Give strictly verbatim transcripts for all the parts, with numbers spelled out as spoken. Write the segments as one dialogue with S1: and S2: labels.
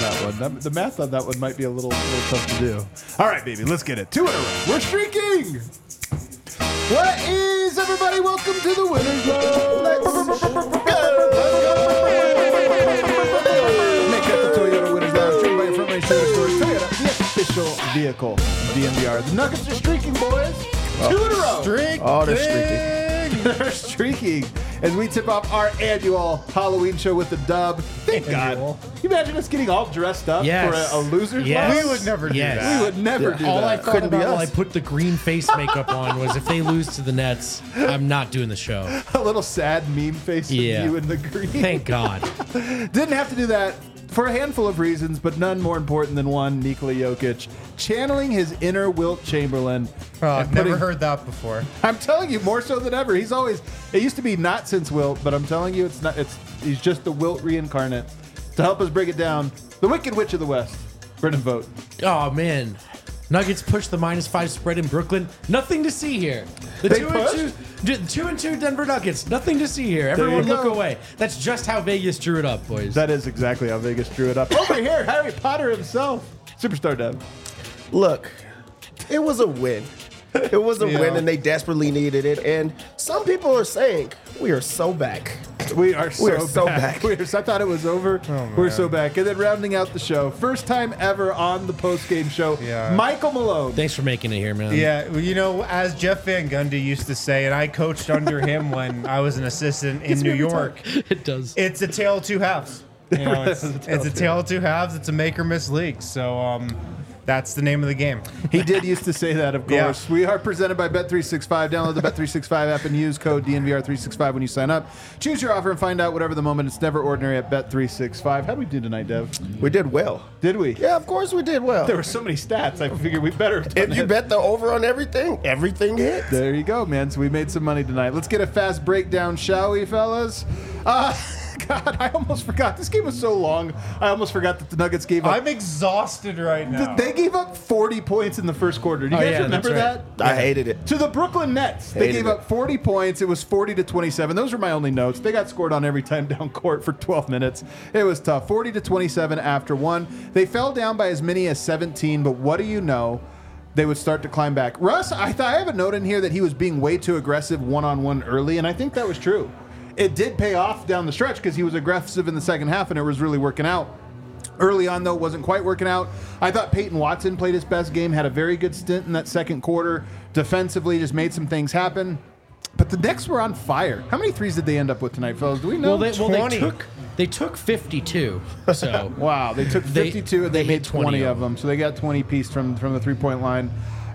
S1: that one. That, the math on that one might be a little, little tough to do. All right, baby, let's get it. Two in a row. We're streaking. What is, everybody? Welcome to the Winners Row. Let's go. Make that the Toyota Winners Lounge, driven by your front range Toyota stores. Toyota, the official vehicle of D N V R. The Nuggets are streaking, boys. Oh. Two in a row.
S2: Streak.
S3: Oh, they're streaking.
S1: They're streaking as we tip off our annual Halloween show with the dub. Thank
S2: Annual.
S1: God. Can you imagine us getting all dressed up
S4: Yes.
S1: for a, a loser's
S4: Yes.
S1: loss?
S2: We would never do
S4: Yes.
S2: that.
S1: We would never
S3: Yeah.
S1: do
S4: All I
S1: that.
S4: thought
S3: Couldn't be
S4: about while I
S3: us.
S4: put the green face makeup on was if they lose to the Nets, I'm not doing the show.
S1: A little sad meme face
S4: Yeah.
S1: of you in the green.
S4: Thank God.
S1: Didn't have to do that for a handful of reasons, but none more important than one, Nikola Jokic, channeling his inner Wilt Chamberlain.
S2: Oh,
S1: and
S2: I've never
S1: putting-
S2: heard that before.
S1: I'm telling you, more so than ever. He's always, it used to be not since Wilt, but I'm telling you, it's not, it's, he's just the Wilt reincarnate. To help us break it down, the Wicked Witch of the West, Brendan Vogt.
S4: Oh, man. Nuggets push the minus five spread in Brooklyn. Nothing to see here. The
S1: They
S4: two
S1: push?
S4: and two, d- two and two Denver Nuggets. Nothing to see here.
S1: you
S4: Everyone look
S1: go.
S4: away. That's just how Vegas drew it up, boys.
S1: That is exactly how Vegas drew it up. Over here, Harry Potter himself, Superstar Dev.
S3: Look, it was a win. It was a
S2: Yeah.
S3: win, and they desperately needed it. And some people are saying, we are so back.
S1: We are so,
S3: We are so
S1: back.
S3: back.
S1: We are so, I thought it was over. We're so back. And then rounding out the show, first time ever on the post-game show,
S2: Yeah.
S1: Michael Malone.
S4: Thanks for making it here, man.
S2: Yeah, well, you know, as Jeff Van Gundy used to say, and I coached under him when I was an assistant in
S1: Gets me
S2: New
S1: every
S2: York,
S4: It does.
S2: it's a tale of two halves. You know, it's,
S1: It's a tale
S2: it's a
S1: of two
S2: tale of two halves. It's a make or miss league. So um, that's the name of the game.
S1: He did used to say that, of
S2: Yeah.
S1: course. We are presented by Bet three sixty-five. Download the Bet three sixty-five app and use code D N V R three sixty-five when you sign up. Choose your offer and find out whatever the moment. It's never ordinary at Bet three sixty-five. How did we do tonight, Dev?
S3: We did well.
S1: Did we?
S3: Yeah, of course we did well.
S1: There were so many stats. I figured we better have done
S3: If you
S1: it.
S3: bet the over on everything, everything hit.
S1: There you go, man. So we made some money tonight. Let's get a fast breakdown, shall we, fellas? Uh, God, I almost forgot. This game was so long. I almost forgot that the Nuggets gave up.
S2: I'm exhausted right now.
S1: They gave up forty points in the first quarter. Do you
S4: Oh,
S1: guys
S4: yeah,
S1: remember
S4: that's
S1: that?
S3: I hated it.
S1: To the Brooklyn Nets. They
S3: Hated
S1: gave
S3: it.
S1: up forty points. It was forty to twenty-seven. Those are my only notes. They got scored on every time down court for twelve minutes. It was tough. forty to twenty-seven after one. They fell down by as many as seventeen, but what do you know? They would start to climb back. Russ, I thought I have a note in here that he was being way too aggressive one-on-one early, and I think that was true. It did pay off down the stretch because he was aggressive in the second half, and it was really working out. Early on, though, it wasn't quite working out. I thought Peyton Watson played his best game, had a very good stint in that second quarter. Defensively, just made some things happen. But the Knicks were on fire. How many threes did they end up with tonight, fellas? Do we know?
S4: Well, they, well, they
S2: twenty.
S4: took they took fifty-two. So
S1: Wow, they took
S4: They-
S1: fifty-two and they,
S4: they
S1: made
S4: hit twenty
S1: twenty
S4: of
S1: of them. So they got twenty piece from, from the three-point line.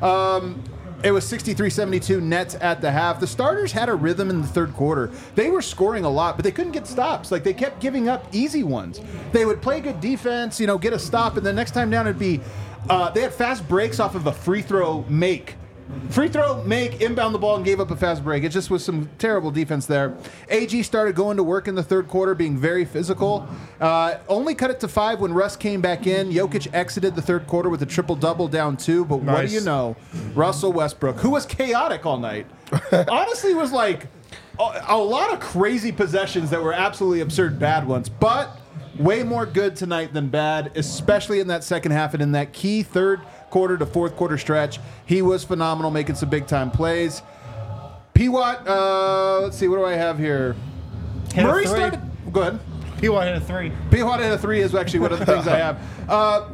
S1: Um, it was sixty-three seventy-two Nets at the half. The starters had a rhythm in the third quarter. They were scoring a lot, but they couldn't get stops. Like, they kept giving up easy ones. They would play good defense, you know, get a stop, and the next time down it'd be uh, they had fast breaks off of a free throw make. Free throw, make, inbound the ball, and gave up a fast break. It just was some terrible defense there. A G started going to work in the third quarter, being very physical. Uh, only cut it to five when Russ came back in. Jokic exited the third quarter with a triple-double down two. But what do
S2: Nice.
S1: you know? Russell Westbrook, who was chaotic all night, honestly was like a, a lot of crazy possessions that were absolutely absurd bad ones. But way more good tonight than bad, especially in that second half and in that key third quarter to fourth quarter stretch. He was phenomenal, making some big time plays. P. Watt, uh, let's see, what do I have here?
S2: Hit a
S1: Murray
S2: three.
S1: started. Go ahead.
S2: He wanted a three.
S1: P. Watt hit a three is actually one of the things I have. Uh,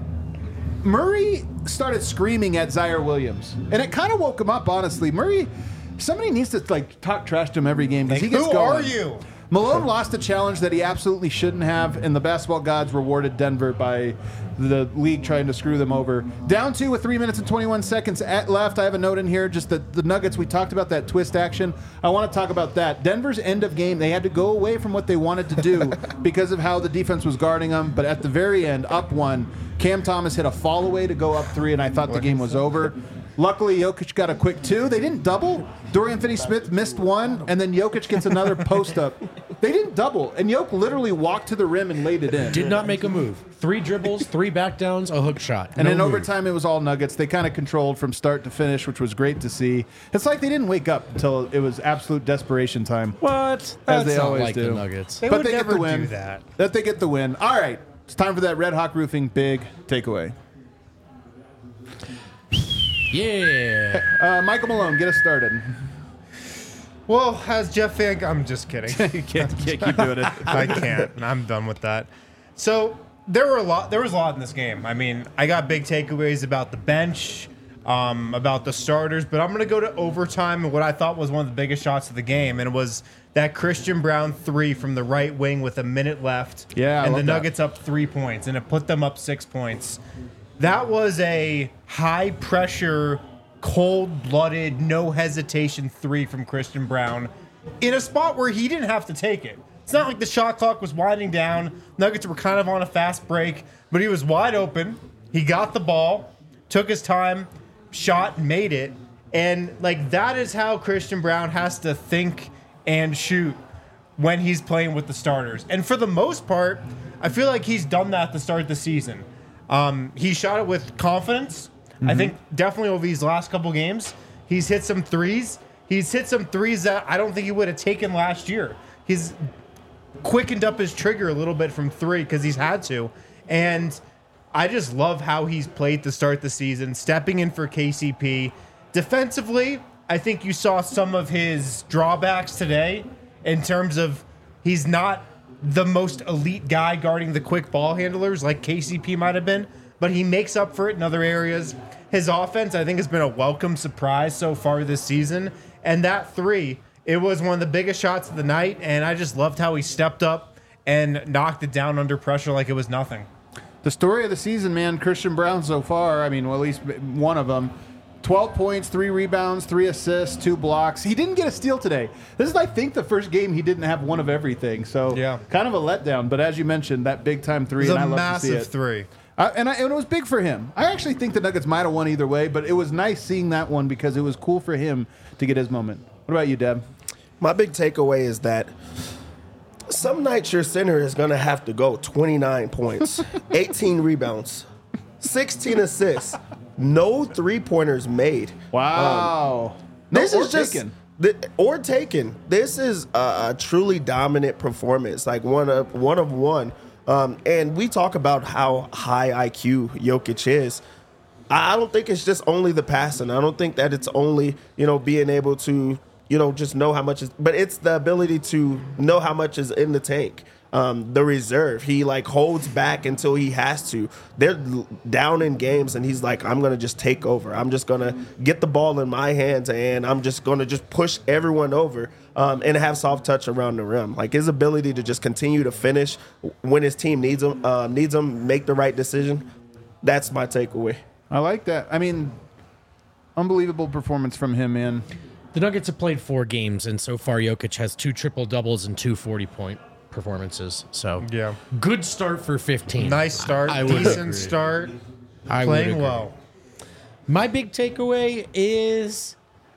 S1: Murray started screaming at Zaire Williams, and it kind of woke him up. Honestly, Murray, somebody needs to like talk trash to him every game because
S2: Like,
S1: he gets
S2: who
S1: going.
S2: are you?
S1: Malone lost a challenge that he absolutely shouldn't have, and the basketball gods rewarded Denver by the league trying to screw them over. Down two with three minutes and twenty-one seconds at left. I have a note in here, just that the Nuggets, we talked about that twist action. I want to talk about that. Denver's end of game, they had to go away from what they wanted to do because of how the defense was guarding them, but at the very end, up one, Cam Thomas hit a fall away to go up three, and I thought the game was over. Luckily, Jokic got a quick two. They didn't double. Dorian Finney-Smith missed one, and then Jokic gets another post-up. They didn't double, and Jokic literally walked to the rim and laid it in.
S4: did not make a move. Three dribbles, three back downs, a hook shot.
S1: And
S4: No
S1: in
S4: move.
S1: overtime, it was all Nuggets. They kind of controlled from start to finish, which was great to see. It's like they didn't wake up until it was absolute desperation time.
S4: What?
S1: As
S4: That's
S1: they
S4: not
S1: always
S4: like
S1: do.
S4: the Nuggets.
S2: They
S1: but
S2: would
S1: they
S2: never
S1: get the win.
S2: do that.
S1: That they get the win. All right. It's time for that Red Hawk Roofing big takeaway.
S4: Yeah.
S1: Uh, Michael Malone, get us started.
S2: Well, as Jeff Van, I'm just kidding.
S1: you can't, can't keep doing it.
S2: I can't. I'm done with that. So there were a lot. There was a lot in this game. I mean, I got big takeaways about the bench, um, about the starters, but I'm going to go to overtime and what I thought was one of the biggest shots of the game, and it was that Christian Brown three from the right wing with a minute left.
S1: Yeah, I
S2: and the
S1: love that.
S2: Nuggets up three points, and it put them up six points. That was a high pressure, cold blooded, no hesitation three from Christian Brown in a spot where he didn't have to take it. It's not like the shot clock was winding down. Nuggets were kind of on a fast break, but he was wide open. He got the ball, took his time, shot, made it. And like that is how Christian Brown has to think and shoot when he's playing with the starters. And for the most part, I feel like he's done that to start the season. Um, he shot it with confidence. Mm-hmm. I think definitely over these last couple games, he's hit some threes. He's hit some threes that I don't think he would have taken last year. He's quickened up his trigger a little bit from three because he's had to. And I just love how he's played to start the season, stepping in for K C P. Defensively, I think you saw some of his drawbacks today in terms of he's not the most elite guy guarding the quick ball handlers like K C P might have been, but he makes up for it in other areas. His offense, I think, has been a welcome surprise so far this season. And that three, it was one of the biggest shots of the night, and I just loved how he stepped up and knocked it down under pressure like it was nothing.
S1: The story of the season, man, Christian Brown so far, I mean, well, at least one of them, twelve points, three rebounds, three assists, two blocks. He didn't get a steal today. This is, I think, the first game he didn't have one of everything. So
S2: Yeah.
S1: kind of a letdown. But as you mentioned, that big-time three,
S2: It was
S1: and I
S2: a
S1: love to see
S2: massive
S1: it.
S2: three.
S1: Uh, and, I, and it was big for him. I actually think the Nuggets might have won either way, but it was nice seeing that one because it was cool for him to get his moment. What about you, Deb?
S3: My big takeaway is that some nights your center is going to have to go twenty-nine points, eighteen rebounds, sixteen assists, no three-pointers made.
S1: Wow. No,
S3: This
S1: or
S3: is just
S1: taken.
S3: th- or taken. This is a, a truly dominant performance, like one of one of one. Um, and we talk about how high I Q Jokic is. I I don't think it's just only the passing. I don't think that it's only, you know, being able to, you know, just know how much is, but it's the ability to know how much is in the tank. Um, the reserve, he like holds back until he has to. They're l- down in games, and he's like, "I'm gonna just take over. I'm just gonna get the ball in my hands, and I'm just gonna just push everyone over um, and have soft touch around the rim." Like his ability to just continue to finish when his team needs him, uh, needs him, make the right decision. That's my takeaway.
S1: I like that. I mean, unbelievable performance from him, man.
S4: The Nuggets have played four games, and so far Jokic has two triple doubles and two forty-point performances. So
S2: Yeah.
S4: good start for fifteen.
S2: Nice start,
S4: I would
S2: decent
S4: agree.
S2: start,
S4: I would
S2: playing
S4: agree.
S2: well.
S4: My big takeaway is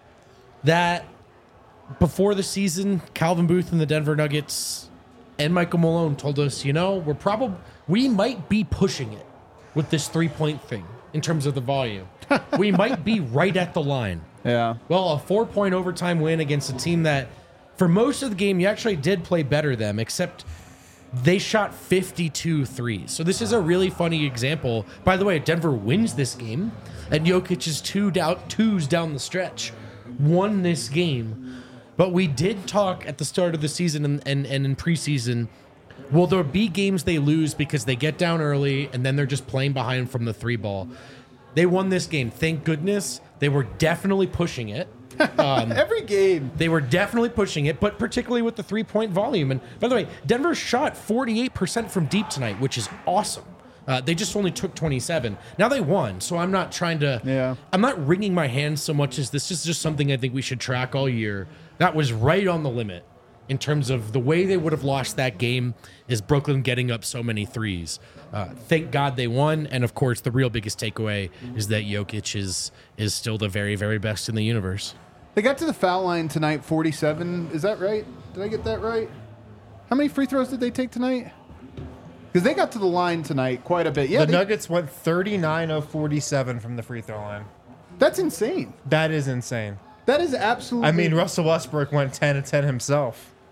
S4: that before the season, Calvin Booth and the Denver Nuggets and Michael Malone told us, you know, we're probably we might be pushing it with this three-point thing in terms of the volume. We might be right at the line.
S1: Yeah.
S4: Well, a four-point overtime win against a team that, for most of the game, you actually did play better than them, except they shot fifty-two threes. So this is a really funny example. By the way, Denver wins this game, and Jokic's two down, twos down the stretch won this game. But we did talk at the start of the season and, and, and in preseason, will there be games they lose because they get down early and then they're just playing behind from the three ball? They won this game. Thank goodness. They were definitely pushing it.
S1: Every game.
S4: They were definitely pushing it, but particularly with the three-point volume. And by the way, Denver shot forty-eight percent from deep tonight, which is awesome. Uh, they just only took twenty-seven. Now they won, so I'm not trying to...
S1: Yeah.
S4: I'm not wringing my hands so much as this is just something I think we should track all year. That was right on the limit in terms of the way they would have lost that game is Brooklyn getting up so many threes. Uh, thank God they won, and of course, the real biggest takeaway is that Jokic is is still the very, very best in the universe.
S1: They got to the foul line tonight, forty-seven. Is that right? Did I get that right? How many free throws did they take tonight? Because they got to the line tonight quite a bit. Yeah,
S2: The
S1: they-
S2: Nuggets went thirty-nine of forty-seven from the free throw line.
S1: that's insane.
S2: That is insane.
S1: That is absolutely.
S2: I mean, Russell Westbrook went ten of ten himself.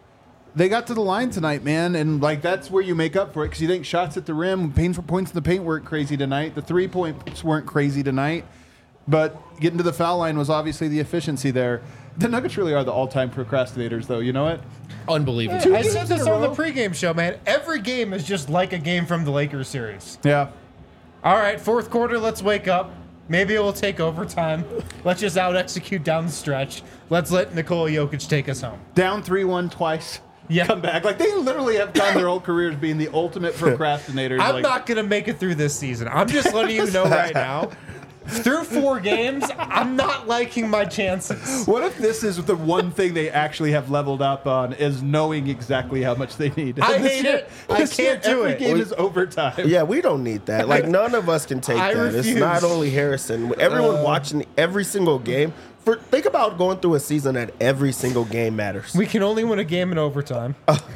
S1: They got to the line tonight, man, and like that's where you make up for it because you think shots at the rim, painful points in the paint weren't crazy tonight. The three points weren't crazy tonight, but getting to the foul line was obviously the efficiency there. The Nuggets really are the all-time procrastinators, though. You know what?
S4: Unbelievable.
S2: I
S1: games
S2: said
S1: in
S2: this
S1: a
S2: on the
S1: row?
S2: pregame show, man. Every game is just like a game from the Lakers series.
S1: Yeah.
S2: All right, fourth quarter, let's wake up. Maybe it will take overtime. Let's just out-execute down the stretch. Let's let Nikola Jokic take us home.
S1: Down three one twice.
S2: Yeah.
S1: Come back. Like they literally have gone their whole careers being the ultimate procrastinators.
S2: I'm
S1: like,
S2: not going to make it through this season. I'm just letting you know right now. Through four games, I'm not liking my chances.
S1: What if this is the one thing they actually have leveled up on is knowing exactly how much they need?
S2: I
S1: This
S2: hate
S1: year-
S2: it. I
S1: this year,
S2: can't do
S1: every
S2: it.
S1: game
S3: We-
S1: is overtime.
S3: Yeah, we don't need that. Like none of us can take
S2: I
S3: that. It's
S2: refuse.
S3: not only Harrison. Everyone
S1: Uh.
S3: watching every single game. For think about going through a season that every single game matters.
S2: We can only win a game in overtime.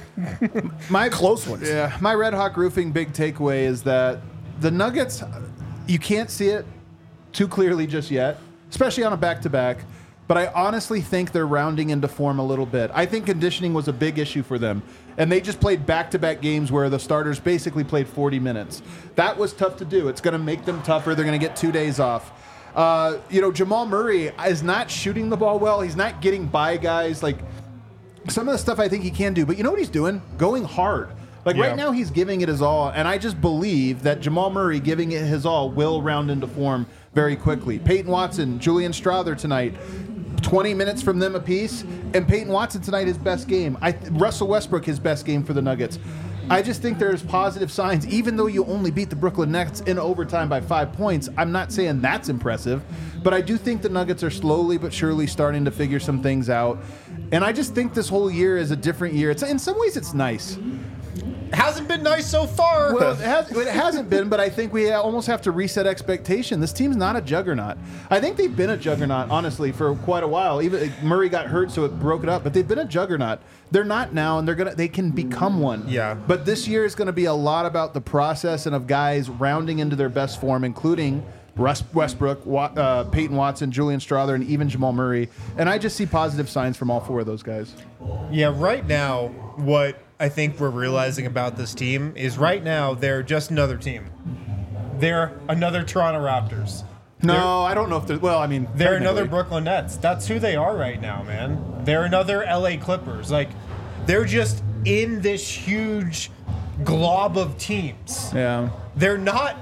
S1: My
S3: Close ones.
S1: Yeah, my Red Hawk Roofing big takeaway is that the Nuggets, you can't see it too clearly just yet, especially on a back-to-back. But I honestly think they're rounding into form a little bit. I think conditioning was a big issue for them. And they just played back-to-back games where the starters basically played forty minutes. That was tough to do. It's going to make them tougher. They're going to get two days off. Uh, you know, Jamal Murray is not shooting the ball well. He's not getting by guys. Like, some of the stuff I think he can do. But you know what he's doing? Going hard. Like,
S2: Yeah.
S1: right now he's giving it his all. And I just believe that Jamal Murray giving it his all will round into form very quickly. Peyton Watson, Julian Strawther tonight. twenty minutes from them apiece, and Peyton Watson tonight his best game. I Russell Westbrook his best game for the Nuggets. I just think there's positive signs, even though you only beat the Brooklyn Nets in overtime by five points. I'm not saying that's impressive, but I do think the Nuggets are slowly but surely starting to figure some things out. And I just think this whole year is a different year. It's in some ways it's nice.
S2: Hasn't been nice so far.
S1: Well, it, has, it hasn't been, but I think we almost have to reset expectation. This team's not a juggernaut. I think they've been a juggernaut, honestly, for quite a while. Even like, Murray got hurt, so it broke it up. But they've been a juggernaut. They're not now, and they're gonna. They can become one.
S2: Yeah.
S1: But this year is going to be a lot about the process and of guys rounding into their best form, including Russ Westbrook, Wa- uh, Peyton Watson, Julian Strawther, and even Jamal Murray. And I just see positive signs from all four of those guys.
S2: Yeah, right now, what I think we're realizing about this team is right now they're just another team. They're another Toronto Raptors.
S1: No, I don't know if they're. Well, I mean,
S2: They're another
S1: technically.
S2: Brooklyn Nets. That's who they are right now, man. They're another L A Clippers. Like, they're just in this huge glob of teams.
S1: Yeah.
S2: They're not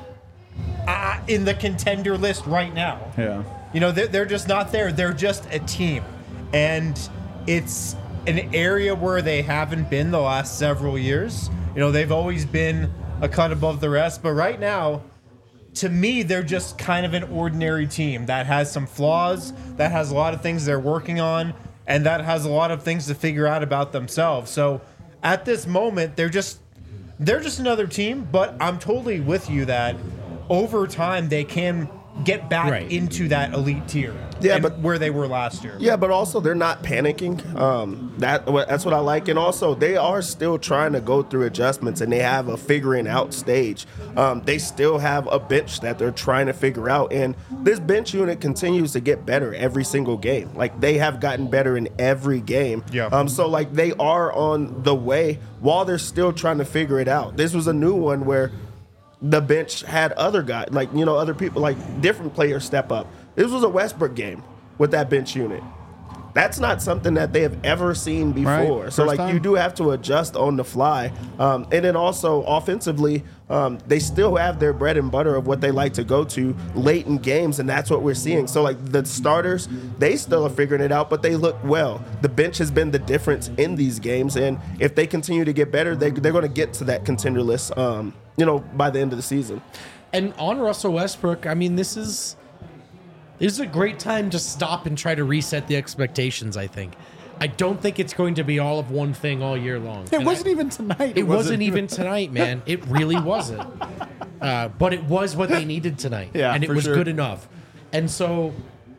S2: uh, in the contender list right now.
S1: Yeah.
S2: You know, they're, they're just not there. They're just a team. And it's an area where they haven't been the last several years. You know, they've always been a cut above the rest. But right now, to me, they're just kind of an ordinary team that has some flaws, that has a lot of things they're working on, and that has a lot of things to figure out about themselves. So at this moment, they're just they're just another team. But I'm totally with you that over time they can get back
S4: Right.
S2: into that elite tier.
S3: Yeah,
S2: and
S3: but-
S2: where they were last year.
S3: Yeah, but also they're not panicking. Um, that that's what I like, and also they are still trying to go through adjustments, and they have a figuring out stage. Um, they still have a bench that they're trying to figure out, and this bench unit continues to get better every single game. Like they have gotten better in every game.
S2: Yeah.
S3: Um. So like they are on the way while they're still trying to figure it out. This was a new one where the bench had other guys, like, you know, other people, like different players step up. This was a Westbrook game with that bench unit. That's not something that they have ever seen before.
S1: Right.
S3: So,
S1: First
S3: like,
S1: time.
S3: you do have to adjust on the fly. Um, and then also offensively, um, they still have their bread and butter of what they like to go to late in games, and that's what we're seeing. So, like, the starters, they still are figuring it out, but they look well. The bench has been the difference in these games, and if they continue to get better, they, they're going to get to that contender list, um, you know, by the end of the season.
S4: And on Russell Westbrook, I mean, this is this is a great time to stop and try to reset the expectations, I think. I don't think it's going to be all of one thing all year long.
S1: It
S4: And
S1: wasn't
S4: I-
S1: even tonight.
S4: It wasn't even tonight, man. It really wasn't. Uh, but it was what they needed tonight.
S1: Yeah,
S4: and it
S1: for
S4: was
S1: sure.
S4: good enough. And so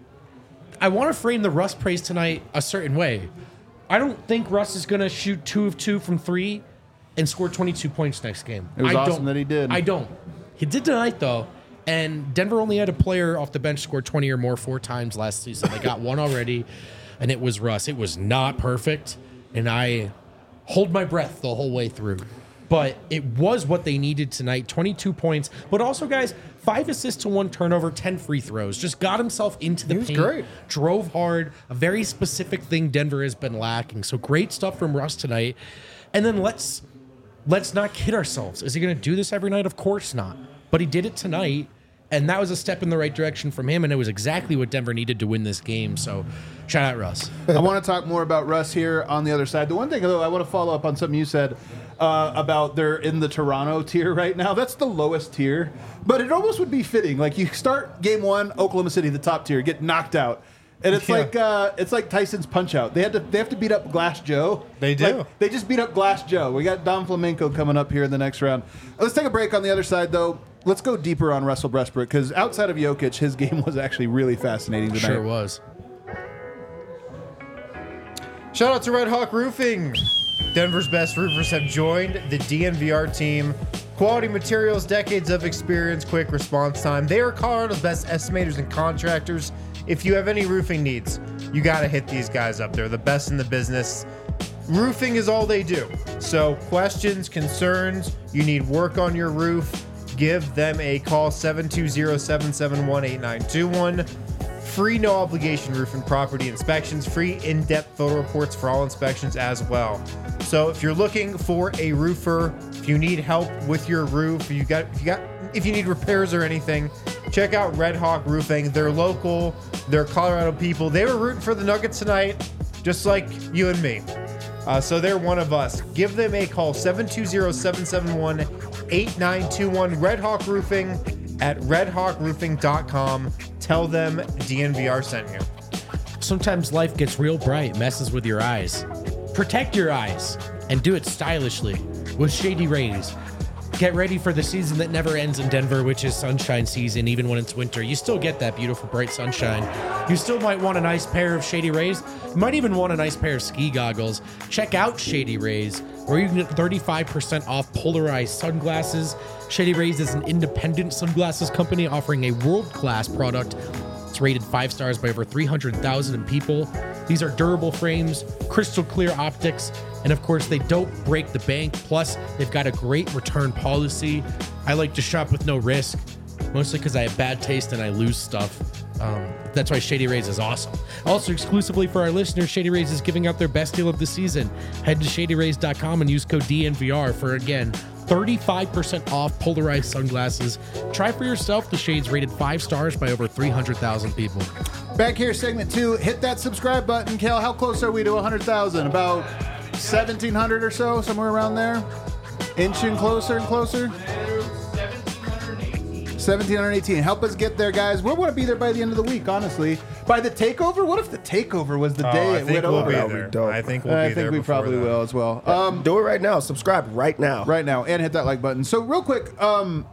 S4: I want to frame the Russ praise tonight a certain way. I don't think Russ is going to shoot two of two from three and score twenty-two points next game.
S1: It was
S4: I
S1: awesome
S4: don't-
S1: that he did.
S4: I don't. He did tonight, though. And Denver only had a player off the bench score twenty or more four times last season. They got one already, and it was Russ. It was not perfect, and I hold my breath the whole way through. But it was what they needed tonight. twenty-two points. But also, guys, five assists to one turnover, ten free throws. Just got himself into the
S2: He was
S4: paint.
S2: great.
S4: Drove hard. A very specific thing Denver has been lacking. So great stuff from Russ tonight. And then let's let's not kid ourselves. Is he going to do this every night? Of course not. But he did it tonight. And that was a step in the right direction from him. And it was exactly what Denver needed to win this game. So shout out Russ.
S1: I want to talk more about Russ here on the other side. The one thing, though, I want to follow up on something you said uh, about they're in the Toronto tier right now. That's the lowest tier, but it almost would be fitting. Like you start game one, Oklahoma City, the top tier, get knocked out. And it's
S2: Yeah.
S1: like uh, it's like Tyson's Punch Out. They had to they have to beat up Glass Joe.
S2: They do.
S1: Like, they just beat up Glass Joe. We got Dom Flamenco coming up here in the next round. Let's take a break on the other side, though. Let's go deeper on Russell Westbrook because outside of Jokic, his game was actually really fascinating tonight.
S4: Sure was.
S2: Shout out to Red Hawk Roofing. Denver's best roofers have joined the D N V R team. Quality materials, decades of experience, quick response time. They are Colorado's best estimators and contractors. If you have any roofing needs, you got to hit these guys up. They're the best in the business. Roofing is all they do. So questions, concerns, you need work on your roof, give them a call, seven two zero, seven seven one, eight nine two one. Free no obligation roof and property inspections, free in-depth photo reports for all inspections as well. So if you're looking for a roofer, if you need help with your roof, if you got if you got if you need repairs or anything, check out Red Hawk Roofing. They're local, they're Colorado people. They were rooting for the Nuggets tonight, just like you and me. Uh, so they're one of us. Give them a call, seven two zero, seven seven one, eight nine two one. Red Hawk Roofing at red hawk roofing dot com. Tell them D N V R sent you.
S4: Sometimes life gets real bright, messes with your eyes. Protect your eyes and do it stylishly with Shady Rays. Get ready for the season that never ends in Denver, which is sunshine season. Even when it's winter, you still get that beautiful bright sunshine. You still might want a nice pair of Shady Rays. You might even want a nice pair of ski goggles. Check out Shady Rays, where you can get thirty-five percent off polarized sunglasses. Shady Rays is an independent sunglasses company offering a world-class product. It's rated five stars by over three hundred thousand people. These are durable frames, crystal clear optics, and of course, they don't break the bank. Plus, they've got a great return policy. I like to shop with no risk, mostly because I have bad taste and I lose stuff. Um, that's why Shady Rays is awesome. Also, exclusively for our listeners, Shady Rays is giving out their best deal of the season. Head to shady rays dot com and use code D N V R for, again, thirty-five percent off polarized sunglasses. Try for yourself the shades rated five stars by over three hundred thousand people.
S1: Back here, segment two. Hit that subscribe button. Kel, how close are we to one hundred thousand? About seventeen hundred or so, somewhere around there? Inching closer and closer? seventeen eighteen. Help us get there, guys. We want to be there by the end of the week, honestly. By the takeover? What if the takeover was the
S2: Oh,
S1: day
S2: I
S1: it
S2: think
S1: went
S2: we'll
S1: over?
S2: be
S3: That'll be
S2: there.
S3: dope.
S2: I think we'll be
S1: I
S2: there.
S1: think we
S2: before
S1: probably
S2: that.
S1: will as well. Um,
S3: Do it right now. Subscribe right now.
S1: right now, and hit that like button. So, real quick, um,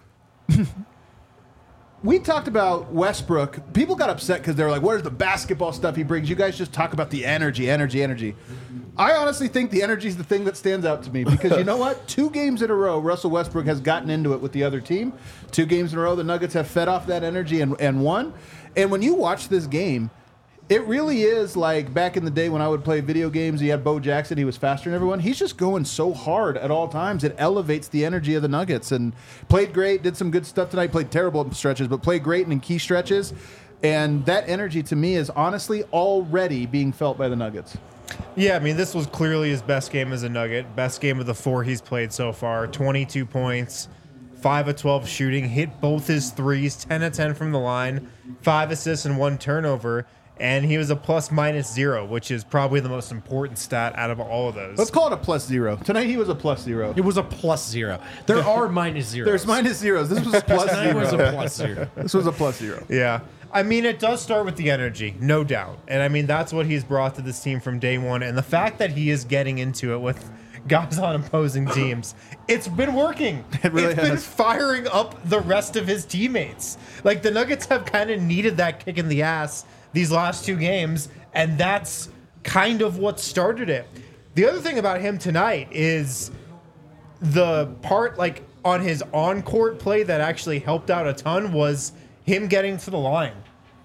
S1: we talked about Westbrook. People got upset because they were like, where's the basketball stuff he brings? You guys just talk about the energy, energy, energy. I honestly think the energy is the thing that stands out to me because you know what? Two games in a row, Russell Westbrook has gotten into it with the other team. Two games in a row, the Nuggets have fed off that energy and, and won. And when you watch this game, it really is like back in the day when I would play video games. You had Bo Jackson. He was faster than everyone. He's just going so hard at all times. It elevates the energy of the Nuggets. And played great. Did some good stuff tonight. Played terrible in stretches, but played great in key stretches. And that energy to me is honestly already being felt by the Nuggets.
S2: Yeah, I mean, this was clearly his best game as a Nugget. Best game of the four he's played so far. twenty-two points, five of twelve shooting, hit both his threes, ten of ten from the line, five assists and one turnover. And he was a plus minus zero, which is probably the most important stat out of all of those.
S1: Let's call it a plus zero. Tonight he was a plus zero.
S4: It was a plus zero. There are minus zeros.
S1: There's minus zeros. This was a plus
S4: Tonight was a
S1: zero.
S4: plus zero.
S1: This was a plus zero.
S2: Yeah. I mean, it does start with the energy, no doubt. And I mean, that's what he's brought to this team from day one. And the fact that he is getting into it with guys on opposing teams, it's been working.
S1: It really
S2: It's been
S1: has.
S2: firing up the rest of his teammates. Like, the Nuggets have kind of needed that kick in the ass these last two games, and that's kind of what started it. The other thing about him tonight is the part, like, on his on-court play that actually helped out a ton was him getting to the line.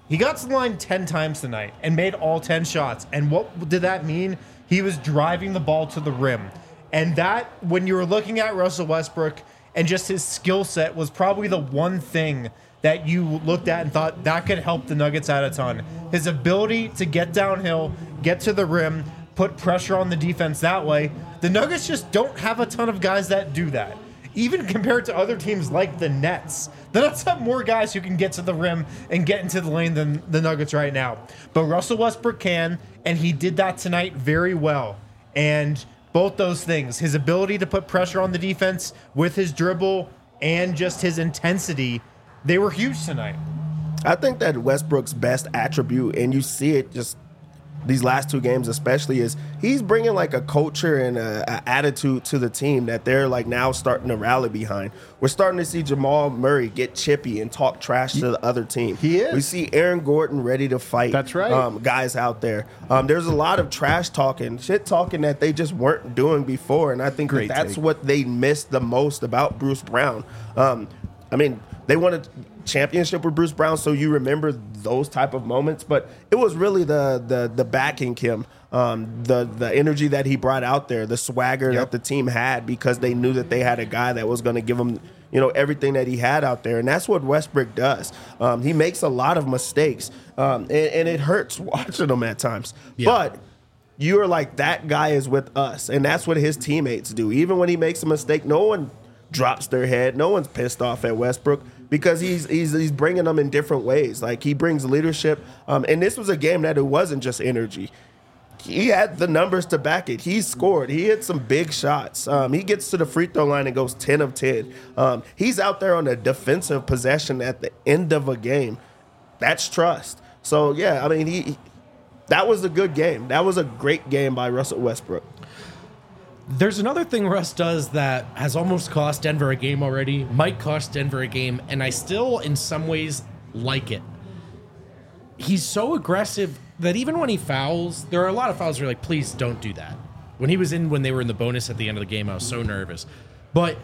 S2: He got to the line ten times tonight and made all ten shots. And what did that mean? He was driving the ball to the rim. And that, when you were looking at Russell Westbrook and just his skill set, was probably the one thing that you looked at and thought that could help the Nuggets out a ton. His ability to get downhill, get to the rim, put pressure on the defense that way. The Nuggets just don't have a ton of guys that do that. Even compared to other teams like the Nets. The Nets have more guys who can get to the rim and get into the lane than the Nuggets right now. But Russell Westbrook can, and he did that tonight very well. And both those things, his ability to put pressure on the defense with his dribble and just his intensity, they were huge tonight.
S3: I think that Westbrook's best attribute, and you see it just these last two games especially, is he's bringing like a culture and a, a attitude to the team that they're like now starting to rally behind. We're starting to see Jamal Murray get chippy and talk trash to the other team.
S1: He is.
S3: We see Aaron Gordon ready to fight.
S1: That's right.
S3: Um, guys out there. Um, there's a lot of trash talking, shit talking that they just weren't doing before, and I think that
S1: Great
S3: that's
S1: take.
S3: what they missed the most about Bruce Brown. Um, I mean, they wanted championship with Bruce Brown, so you remember those type of moments. But it was really the the the backing him, um, the the energy that he brought out there, the swagger
S2: Yep.
S3: that the team had, because they knew that they had a guy that was going to give them, you know, everything that he had out there, and that's what Westbrook does. Um, he makes a lot of mistakes, um, and, and it hurts watching him at times,
S4: Yeah.
S3: but. You are like, that guy is with us, and that's what his teammates do. Even when he makes a mistake, no one drops their head. No one's pissed off at Westbrook because he's he's he's bringing them in different ways. Like, he brings leadership, um, and this was a game that it wasn't just energy. He had the numbers to back it. He scored. He hit some big shots. Um, he gets to the free throw line and goes ten of ten. Um, he's out there on a defensive possession at the end of a game. That's trust. So, yeah, I mean, he that was a good game. That was a great game by Russell Westbrook.
S4: There's another thing Russ does that has almost cost Denver a game already, might cost Denver a game, and I still, in some ways, like it. He's so aggressive that even when he fouls, there are a lot of fouls where you're like, please don't do that. When he was in, when they were in the bonus at the end of the game, I was so nervous. But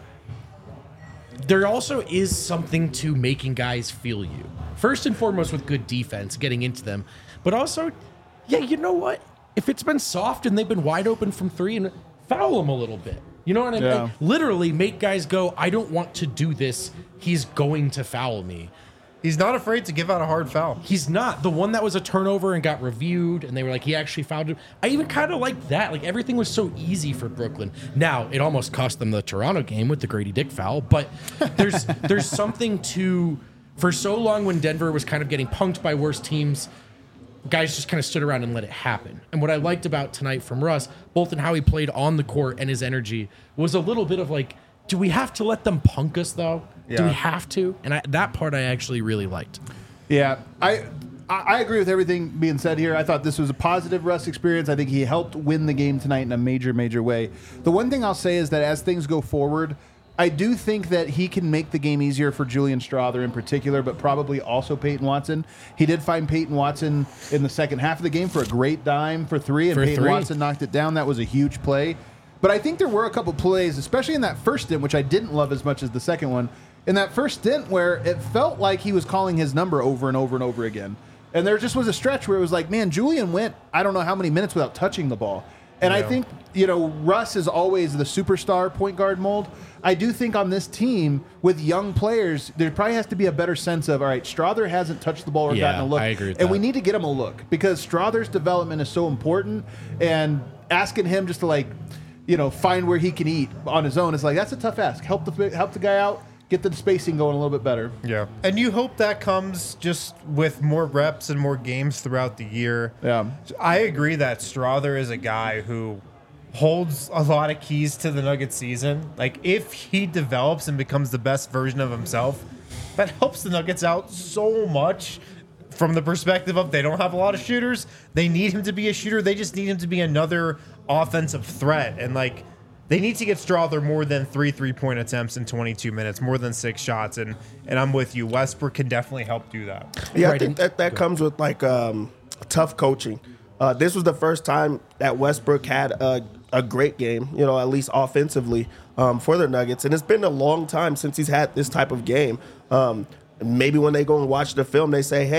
S4: there also is something to making guys feel you. First and foremost with good defense, getting into them, but also, yeah, you know what? If it's been soft and they've been wide open from three, and foul them a little bit. You know what I mean?
S1: Yeah.
S4: Like, literally make guys go, I don't want to do this. He's going to foul me.
S2: He's not afraid to give out a hard foul.
S4: He's not. The one that was a turnover and got reviewed, and they were like, he actually fouled him. I even kind of like that. Like, everything was so easy for Brooklyn. Now, it almost cost them the Toronto game with the Grady Dick foul, but there's there's something to, for so long when Denver was kind of getting punked by worse teams, guys just kind of stood around and let it happen. And what I liked about tonight from Russ, both in how he played on the court and his energy, was a little bit of like, do we have to let them punk us, though? Do
S2: Yeah.
S4: we have to? And I, that part I actually really liked.
S1: Yeah, I I I agree with everything being said here. I thought this was a positive Russ experience. I think he helped win the game tonight in a major, major way. The one thing I'll say is that as things go forward, I do think that he can make the game easier for Julian Strawther in particular, but probably also Peyton Watson. He did find Peyton Watson in the second half of the game for a great dime for three, and
S4: For
S1: Peyton
S4: three.
S1: Watson knocked it down. That was a huge play. But I think there were a couple plays, especially in that first stint, which I didn't love as much as the second one, in that first stint where it felt like he was calling his number over and over and over again. And there just was a stretch where it was like, man, Julian went I don't know how many minutes without touching the ball. And I
S2: Yeah.
S1: think, you know, Russ is always the superstar point guard mold. I do think on this team with young players, there probably has to be a better sense of, all right, Strawther hasn't touched the ball or
S4: Yeah,
S1: gotten a look.
S4: I agree with
S1: and
S4: that.
S1: we need to get him a look because Strawther's development is so important. And asking him just to, like, you know, find where he can eat on his own is like, that's a tough ask. Help the help the guy out, get the spacing going a little bit better.
S2: Yeah. And you hope that comes just with more reps and more games throughout the year.
S1: Yeah.
S2: I agree that Strawther is a guy who holds a lot of keys to the Nuggets season. Like, if he develops and becomes the best version of himself, that helps the Nuggets out so much from the perspective of they don't have a lot of shooters. They need him to be a shooter. They just need him to be another offensive threat. And, like, they need to get Strawther more than three three-point attempts in twenty-two minutes, more than six shots. And and I'm with you. Westbrook can definitely help do that.
S3: Yeah, I
S4: Right,
S3: think
S4: and-
S3: that, that comes with like um, tough coaching. Uh, this was the first time that Westbrook had a, a great game, you know, at least offensively um, for the Nuggets. And it's been a long time since he's had this type of game. Um, maybe when they go and watch the film, they say, hey,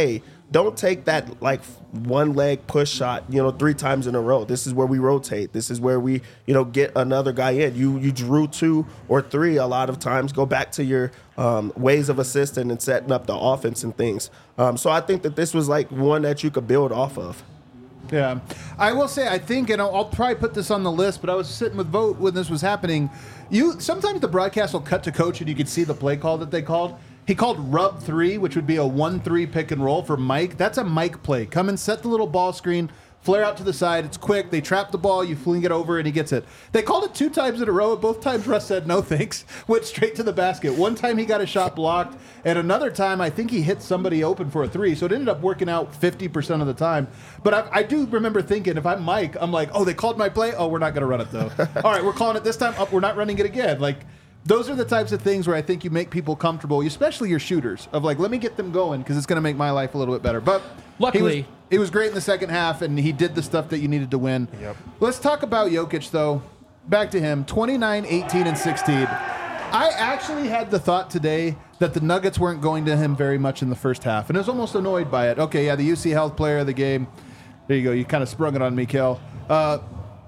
S3: don't take that like one leg push shot, you know, three times in a row. This is where we rotate. This is where we, you know, get another guy in. You you drew two or three a lot of times. Go back to your um, ways of assisting and setting up the offense and things. Um, so I think that this was like one that you could build off of.
S1: Yeah, I will say I think, and I'll, I'll probably put this on the list. But I was sitting with Vogt when this was happening. You sometimes the broadcast will cut to coach and you could see the play call that they called. He called rub three, which would be a one three pick and roll for Mike. That's a Mike play. Come and set the little ball screen, flare out to the side. It's quick. They trap the ball. You fling it over, and he gets it. They called it two times in a row. Both times Russ said no thanks. Went straight to the basket. One time he got a shot blocked, and another time I think he hit somebody open for a three. So it ended up working out fifty percent of the time. But I, I do remember thinking, if I'm Mike, I'm like, oh, they called my play? Oh, we're not going to run it, though. All right, we're calling it this time. Oh, we're not running it again. Like, those are the types of things where I think you make people comfortable, especially your shooters, of like, let me get them going because it's going to make my life a little bit better. But
S4: Luckily-
S1: he was, he was great in the second half, and he did the stuff that you needed to win.
S2: Yep.
S1: Let's talk about Jokic, though. Back to him, twenty-nine, eighteen, and sixteen. I actually had the thought today that the Nuggets weren't going to him very much in the first half, and I was almost annoyed by it. Okay, yeah, the U C Health player of the game. There you go. You kind of sprung it on me, Kel. Uh,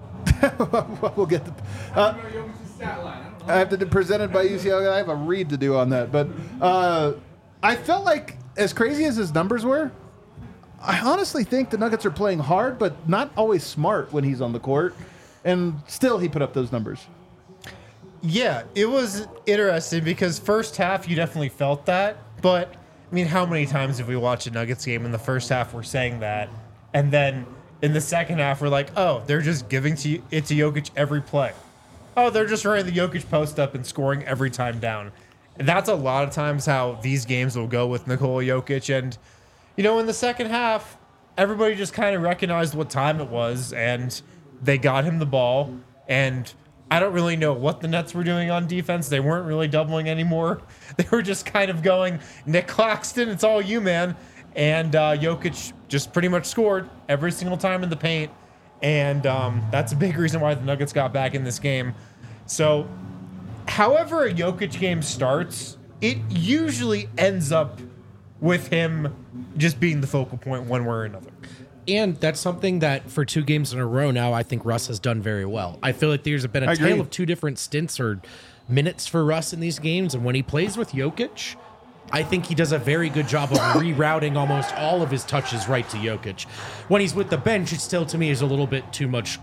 S1: we'll get the... Uh, I have to do presented by U C L. I have a read to do on that, but uh, I felt like as crazy as his numbers were, I honestly think the Nuggets are playing hard, but not always smart when he's on the court, and still he put up those numbers.
S2: Yeah, it was interesting because first half you definitely felt that, but I mean, how many times have we watched a Nuggets game in the first half we're saying that, and then in the second half we're like, oh, they're just giving to it to Jokic every play. Oh, they're just running the Jokic post up and scoring every time down. And that's a lot of times how these games will go with Nikola Jokic. And, you know, in the second half, everybody just kind of recognized what time it was, and they got him the ball. And I don't really know what the Nets were doing on defense. They weren't really doubling anymore. They were just kind of going, Nick Claxton, it's all you, man. And uh, Jokic just pretty much scored every single time in the paint. And um, that's a big reason why the Nuggets got back in this game. So, however a Jokic game starts, it usually ends up with him just being the focal point one way or another.
S4: And that's something that for two games in a row now, I think Russ has done very well. I feel like there's been a
S1: I
S4: tale
S1: agree.
S4: of two different stints or minutes for Russ in these games. And when he plays with Jokic, I think he does a very good job of rerouting almost all of his touches right to Jokic. When he's with the bench, it still, to me, is a little bit too much.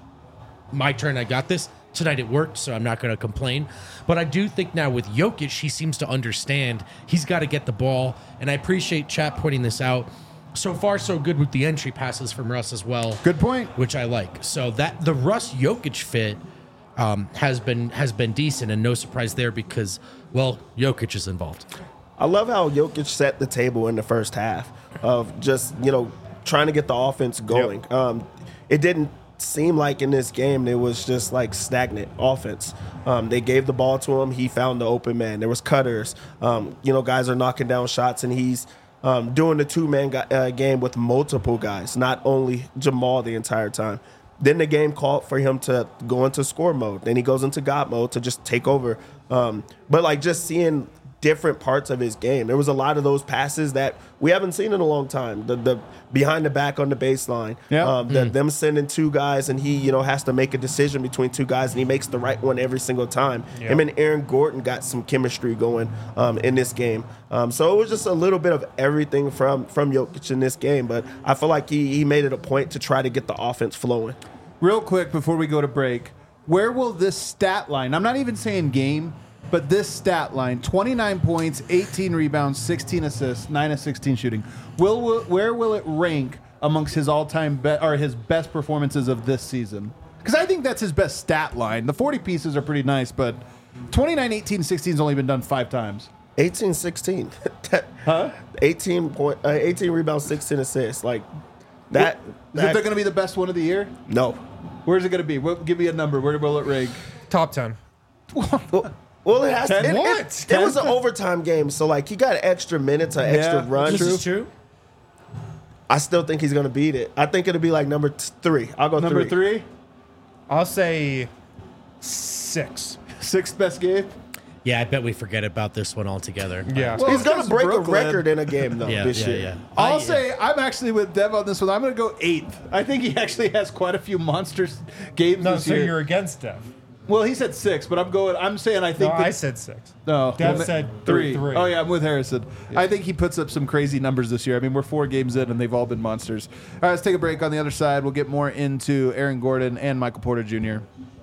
S4: My turn, I got this. Tonight it worked, so I'm not going to complain. But I do think now with Jokic, he seems to understand he's got to get the ball. And I appreciate Chap pointing this out. So far, so good with the entry passes from Russ as well.
S1: Good point.
S4: Which I like. So that the Russ Jokic fit um, has been has been decent, and no surprise there because, well, Jokic is involved.
S3: I love how Jokic set the table in the first half of just, you know, trying to get the offense going.
S2: Yep.
S3: Um, it didn't seem like in this game it was just like stagnant offense. Um, they gave the ball to him. He found the open man. There was cutters. Um, you know, guys are knocking down shots, and he's um, doing the two-man guy, uh, game with multiple guys, not only Jamal the entire time. Then the game called for him to go into score mode. Then he goes into God mode to just take over. Um, but, like, just seeing different parts of his game. There was a lot of those passes that we haven't seen in a long time. The the behind the back on the baseline.
S1: Yeah.
S3: Um, the, Them sending two guys, and he, you know, has to make a decision between two guys, and he makes the right one every single time.
S2: Yep.
S3: Him and Aaron Gordon got some chemistry going um, in this game. Um, so it was just a little bit of everything from from Jokic in this game. But I feel like he he made it a point to try to get the offense flowing.
S1: Real quick before we go to break, where will this stat line, I'm not even saying game, but this stat line, twenty-nine points, eighteen rebounds, sixteen assists, nine of sixteen shooting, will, will where will it rank amongst his all-time be, or his best performances of this season? Because I think that's his best stat line. The forty pieces are pretty nice, but twenty-nine, eighteen, sixteen has only been done five times.
S3: eighteen sixteen
S1: Huh?
S3: eighteen point uh, eighteen rebounds, sixteen assists. Like that.
S1: Is
S3: that
S1: it going to be the best one of the year?
S3: no.
S1: Where's it going to be? What, give me a number. Where will it rank?
S2: Top ten.
S3: Well, well, it has to.
S1: Ten?
S3: It,
S2: What?
S3: it, it was an overtime game, so like he got extra minutes, an extra
S1: Yeah,
S3: run.
S4: This is true.
S3: I still think he's gonna beat it. I think it'll be like number t- three. I'll go
S1: Number
S3: three.
S1: three?
S2: I'll say six.
S1: Sixth best game?
S4: Yeah, I bet we forget about this one altogether.
S2: Yeah.
S1: Well,
S3: He's going
S1: because
S3: to break
S1: Brooklyn-
S3: a record in a game, though,
S4: Yeah,
S3: this
S4: yeah,
S3: year.
S4: yeah.
S1: I'll
S4: I-
S1: say I'm actually with Dev on this one. I'm going to go eighth. I think he actually has quite a few monsters games
S2: No,
S1: this
S2: so
S1: year.
S2: you're against Dev.
S1: Well, he said six, but I'm going. I'm saying I
S2: No,
S1: think.
S2: I
S1: that-
S2: said six.
S1: No,
S2: Dev
S1: well,
S2: said
S1: three.
S2: three.
S1: Oh yeah, I'm with Harrison. I think he puts up some crazy numbers this year. I mean, we're four games in, and they've all been monsters. All right, let's take a break. On the other side, we'll get more into Aaron Gordon and Michael Porter Junior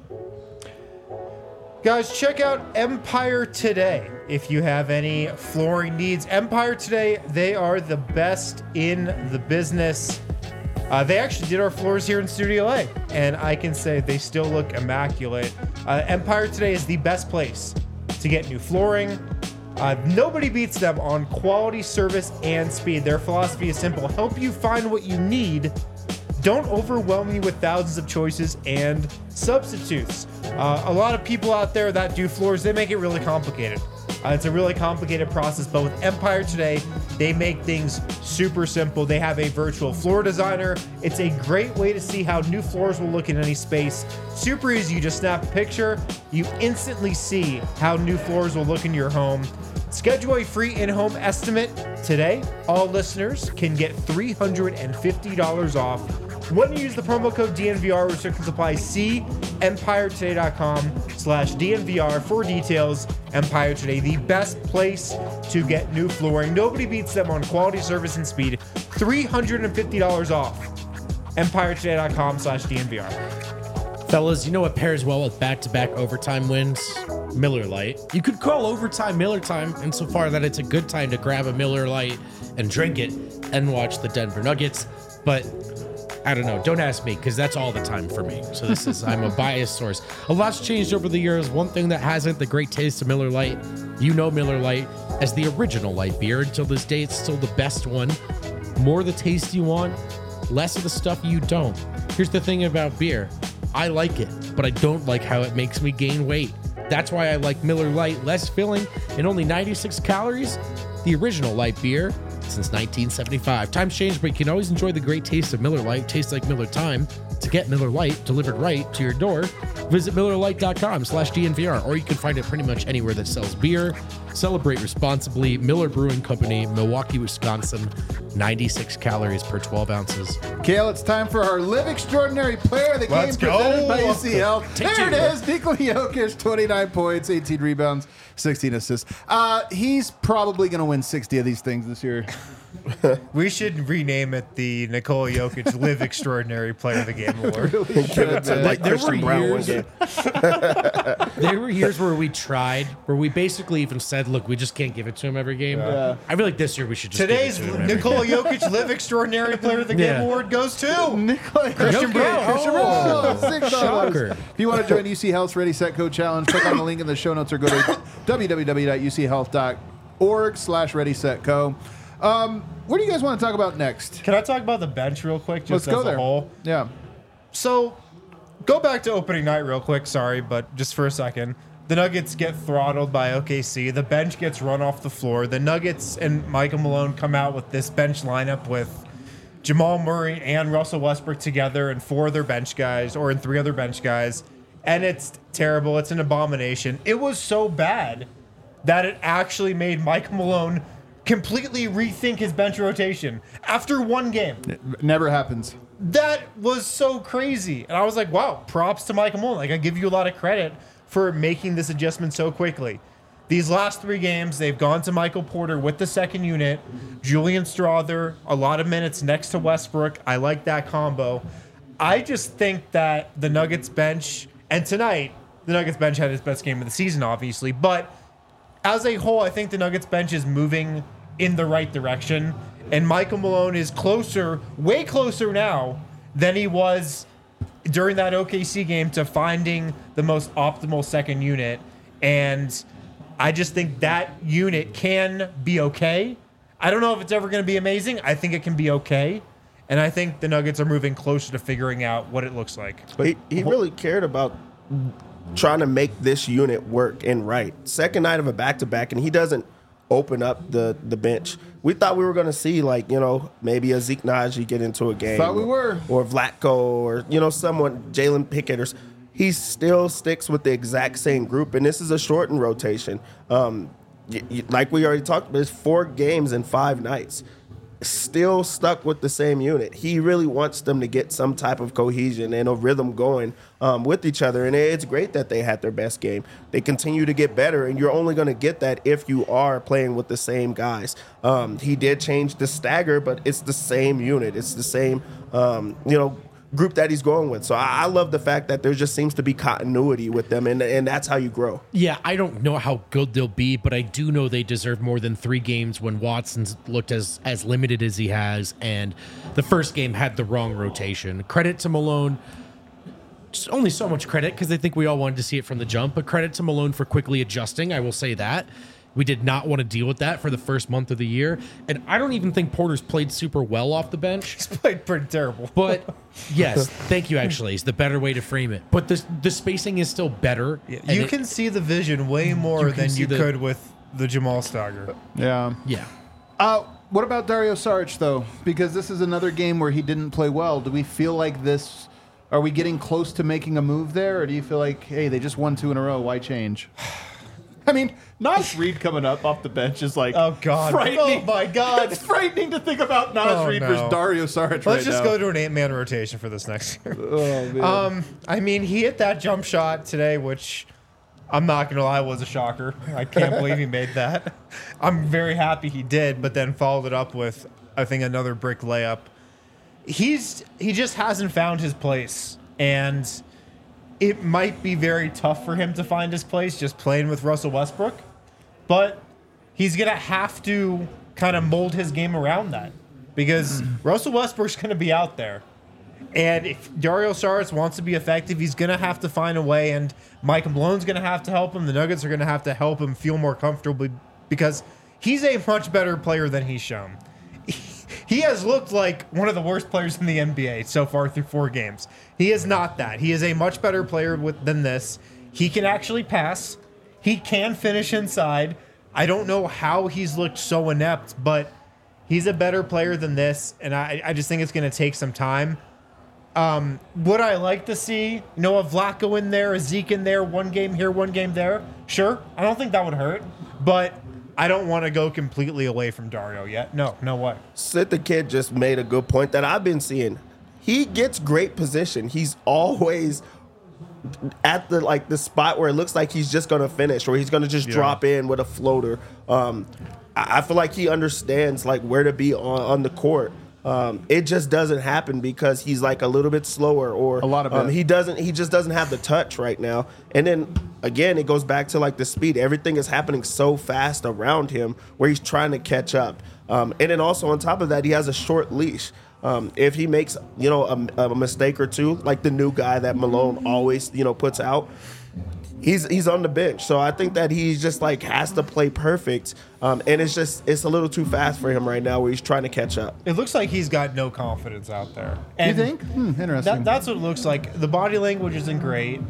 S2: Guys, check out Empire Today if you have any flooring needs. Empire Today, they are the best in the business. Uh, they actually did our floors here in Studio A, and I can say they still look immaculate. Uh, Empire Today is the best place to get new flooring. Uh, nobody beats them on quality, service, and speed. Their philosophy is simple: help you find what you need. Don't overwhelm you with thousands of choices and substitutes. Uh, a lot of people out there that do floors, they make it really complicated. Uh, it's a really complicated process, but with Empire Today, they make things super simple. They have a virtual floor designer. It's a great way to see how new floors will look in any space. Super easy. You just snap a picture. You instantly see how new floors will look in your home. Schedule a free in-home estimate today. All listeners can get three hundred fifty dollars off when you use the promo code D N V R. Restrictions apply. See empire today dot com slash D N V R for details. Empire Today, the best place to get new flooring. Nobody beats them on quality, service, and speed. three hundred fifty dollars off. empire today dot com slash D N V R.
S4: Fellas, you know what pairs well with back-to-back overtime wins? Miller Lite. You could call overtime Miller time insofar that it's a good time to grab a Miller Lite and drink it and watch the Denver Nuggets. But I don't know. Don't ask me, because that's all the time for me. So this is, I'm a biased source. A lot's changed over the years. One thing that hasn't, the great taste of Miller Lite. You know Miller Lite as the original light beer. Until this day, it's still the best one. More the taste you want, less of the stuff you don't. Here's the thing about beer. I like it, but I don't like how it makes me gain weight. That's why I like Miller Lite, less filling and only ninety-six calories. The original light beer since nineteen seventy-five. Times change, but you can always enjoy the great taste of Miller Lite. Tastes like Miller time. To get Miller Lite delivered right to your door, visit miller lite dot com slash D N V R, or you can find it pretty much anywhere that sells beer. Celebrate responsibly. Miller Brewing Company, Milwaukee, Wisconsin. ninety-six calories per twelve ounces.
S1: Kale, it's time for our Live Extraordinary Player of the
S2: Let's
S1: Game
S2: go.
S1: presented by U C L.
S4: Take
S1: There
S4: two.
S1: it is. Nikola Jokic, twenty-nine points, eighteen rebounds, sixteen assists. Uh, he's probably going to win sixty of these things this year.
S2: We should rename it the Nikola Jokic Live Extraordinary Player of the Game Award.
S1: Really should, man.
S3: Like
S4: There
S3: Christian
S4: were
S3: Brown one
S4: years-
S3: game.
S4: There were years where we tried, where we basically even said, look, we just can't give it to him every game.
S1: Yeah.
S4: I feel like this year we should just
S2: Today's
S4: give it to him every
S2: Nikola Jokic Live Extraordinary Player of the Game
S4: Yeah.
S2: Award goes to
S1: Nikola
S2: Christian
S1: Jokic.
S2: Brown.
S1: Christian Brown. Six dollars.
S4: Shocker.
S1: If you want to join U C Health's Ready, Set, Go Challenge, click on the link in the show notes or go to w w w dot u c health dot org slash ready, set, go. Um, what do you guys want to talk about next?
S2: Can I talk about the bench real quick, just
S1: Let's go
S2: as
S1: there.
S2: a whole?
S1: Yeah.
S2: So, go back to opening night real quick. Sorry, but just for a second. The Nuggets get throttled by O K C. The bench gets run off the floor. The Nuggets and Michael Malone come out with this bench lineup with Jamal Murray and Russell Westbrook together and four other bench guys, or in three other bench guys. And it's terrible. It's an abomination. It was so bad that it actually made Michael Malone completely rethink his bench rotation after one game.
S1: Never happens.
S2: That was so crazy. And I was like, wow, props to Michael Malone. Like, I give you a lot of credit for making this adjustment so quickly. These last three games, they've gone to Michael Porter with the second unit. Julian Strother, a lot of minutes next to Westbrook. I like that combo. I just think that the Nuggets bench, and tonight, the Nuggets bench had its best game of the season, obviously, but as a whole, I think the Nuggets bench is moving in the right direction. And Michael Malone is closer, way closer now than he was during that O K C game to finding the most optimal second unit. And I just think that unit can be okay. I don't know if it's ever going to be amazing. I think it can be okay. And I think the Nuggets are moving closer to figuring out what it looks like.
S3: He, he really cared about trying to make this unit work and right. Second night of a back-to-back, and he doesn't open up the, the bench. We thought we were going to see, like, you know, maybe a Zeke Naji get into a game.
S1: Thought we were.
S3: Or Vlatko or, you know, someone, Jalen Pickett. Or, he still sticks with the exact same group, and this is a shortened rotation. Um, y- y- like we already talked about, there's four games in five nights. Still stuck with the same unit. He really wants them to get some type of cohesion and a rhythm going um, with each other. And it's great that they had their best game. They continue to get better, and you're only going to get that if you are playing with the same guys. Um, he did change the stagger, but it's the same unit. It's the same, um, you know, group that he's going with. So I, I love the fact that there just seems to be continuity with them, and, and that's how you grow.
S4: Yeah, I don't know how good they'll be, but I do know they deserve more than three games when Watson's looked as as limited as he has, and the first game had the wrong rotation. Credit to Malone. Just only so much credit because I think we all wanted to see it from the jump, but credit to Malone for quickly adjusting. I will say that. We did not want to deal with that for the first month of the year. And I don't even think Porter's played super well off the bench.
S2: He's played pretty terrible.
S4: But yes, thank you, actually. It's the better way to frame it. But the, the spacing is still better.
S2: Yeah,
S4: and
S2: you
S4: it-
S2: can see the vision way more
S4: You can
S2: than
S4: see
S2: you
S4: the-
S2: could with the Jamal Stagger.
S1: Yeah.
S4: Yeah.
S1: Uh, what about Dario Saric, though? Because this is another game where he didn't play well. Do we feel like this... Are we getting close to making a move there? Or do you feel like, hey, they just won two in a row. Why change? I mean, Nas Reed coming up off the bench is like
S2: Oh, God.
S1: frightening.
S2: Oh, my God.
S1: It's frightening to think about Nas
S2: Oh,
S1: Reed
S2: no.
S1: versus Dario Saric
S2: Let's
S1: right
S2: just
S1: now.
S2: go to an eight-man rotation for this next year.
S1: Oh, man.
S2: Um, I mean, he hit that jump shot today, which I'm not going to lie was a shocker. I can't believe he made that. I'm very happy he did, but then followed it up with, I think, another brick layup. He's He just hasn't found his place, and it might be very tough for him to find his place just playing with Russell Westbrook, but he's going to have to kind of mold his game around that because Russell Westbrook's going to be out there. And if Dario Saric wants to be effective, he's going to have to find a way, and Mike Malone's going to have to help him. The Nuggets are going to have to help him feel more comfortable because he's a much better player than he's shown. He has looked like one of the worst players in the N B A so far through four games. He is not that. He is a much better player with, than this. He can actually pass. He can finish inside. I don't know how he's looked so inept, but he's a better player than this, and I, I just think it's going to take some time. Um, would I like to see, you know, a Vlaco in there, a Zeke in there, one game here, one game there? Sure. I don't think that would hurt, but I don't want to go completely away from Dario yet. No, no way.
S3: Sid the Kid just made a good point that I've been seeing. He gets great position. He's always at the like the spot where it looks like he's just gonna finish, or he's gonna just
S2: Yeah.
S3: drop in with a floater. Um, I I feel like he understands like where to be on, on the court. Um, it just doesn't happen because he's like a little bit slower, or
S1: A lot of
S3: um,
S1: it.
S3: he doesn't. He just doesn't have the touch right now. And then again, it goes back to like the speed. Everything is happening so fast around him where he's trying to catch up. Um, and then also on top of that, he has a short leash. Um, if he makes you know a, a mistake or two, like the new guy that Malone always you know puts out, he's he's on the bench. So I think that he just like has to play perfect, um, and it's just it's a little too fast for him right now where he's trying to catch up.
S2: It looks like he's got no confidence out there.
S1: you
S2: And
S1: think? Hmm, interesting.
S2: That, that's what it looks like. The body language isn't great,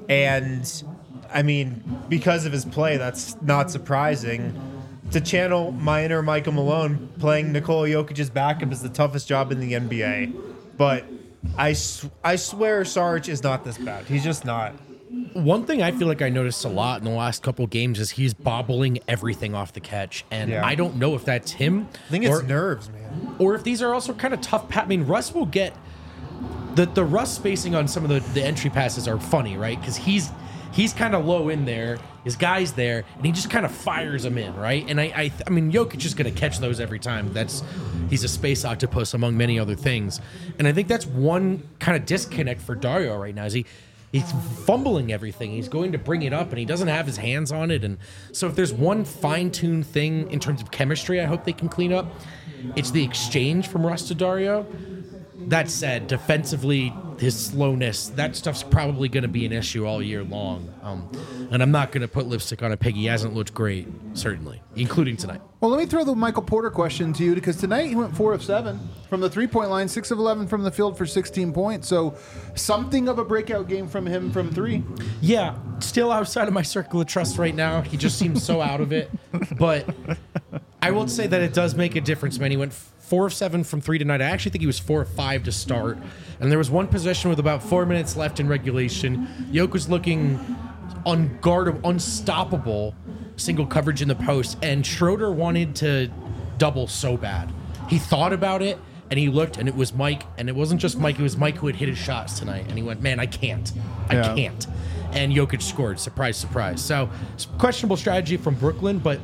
S2: and I mean, because of his play, that's not surprising. To channel my inner Michael Malone, playing Nikola Jokic's backup is the toughest job in the N B A. But I, sw- I swear Saric is not this bad. He's just not.
S4: One thing I feel like I noticed a lot in the last couple of games is he's bobbling everything off the catch. And
S2: Yeah.
S4: I don't know if that's him
S2: I think it's
S4: or,
S2: nerves, man.
S4: or if these are also kind of tough. Pa- I mean, Russ will get the the Russ spacing on some of the, the entry passes are funny, right? Because he's he's kind of low in there, his guy's there, and he just kind of fires them in, right? And I I, I mean, Jokic is going to catch those every time. That's he's a space octopus among many other things, and I think that's one kind of disconnect for Dario right now. Is he? He's fumbling everything. He's going to bring it up, and he doesn't have his hands on it. And so, if there's one fine-tuned thing in terms of chemistry, I hope they can clean up. It's the exchange from Russ to Dario. That said, defensively, his slowness, that stuff's probably going to be an issue all year long. Um, and I'm not going to put lipstick on a pig. He hasn't looked great, certainly, including tonight.
S1: Well, let me throw the Michael Porter question to you because tonight he went four of seven from the three-point line, six of eleven from the field for sixteen points. So something of a breakout game from him from three.
S4: Yeah, still outside of my circle of trust right now. He just seems so out of it. But I I will say that it does make a difference, man. He went four of seven from three tonight. I actually think he was four of five to start. And there was one possession with about four minutes left in regulation. Yoke was looking unguardable, unstoppable, single coverage in the post. And Schroeder wanted to double so bad. He thought about it, and he looked, and it was Mike. And it wasn't just Mike. It was Mike who had hit his shots tonight. And he went, man, I can't. I
S1: Yeah.
S4: can't. And Jokic scored. Surprise, surprise. So, questionable strategy from Brooklyn, but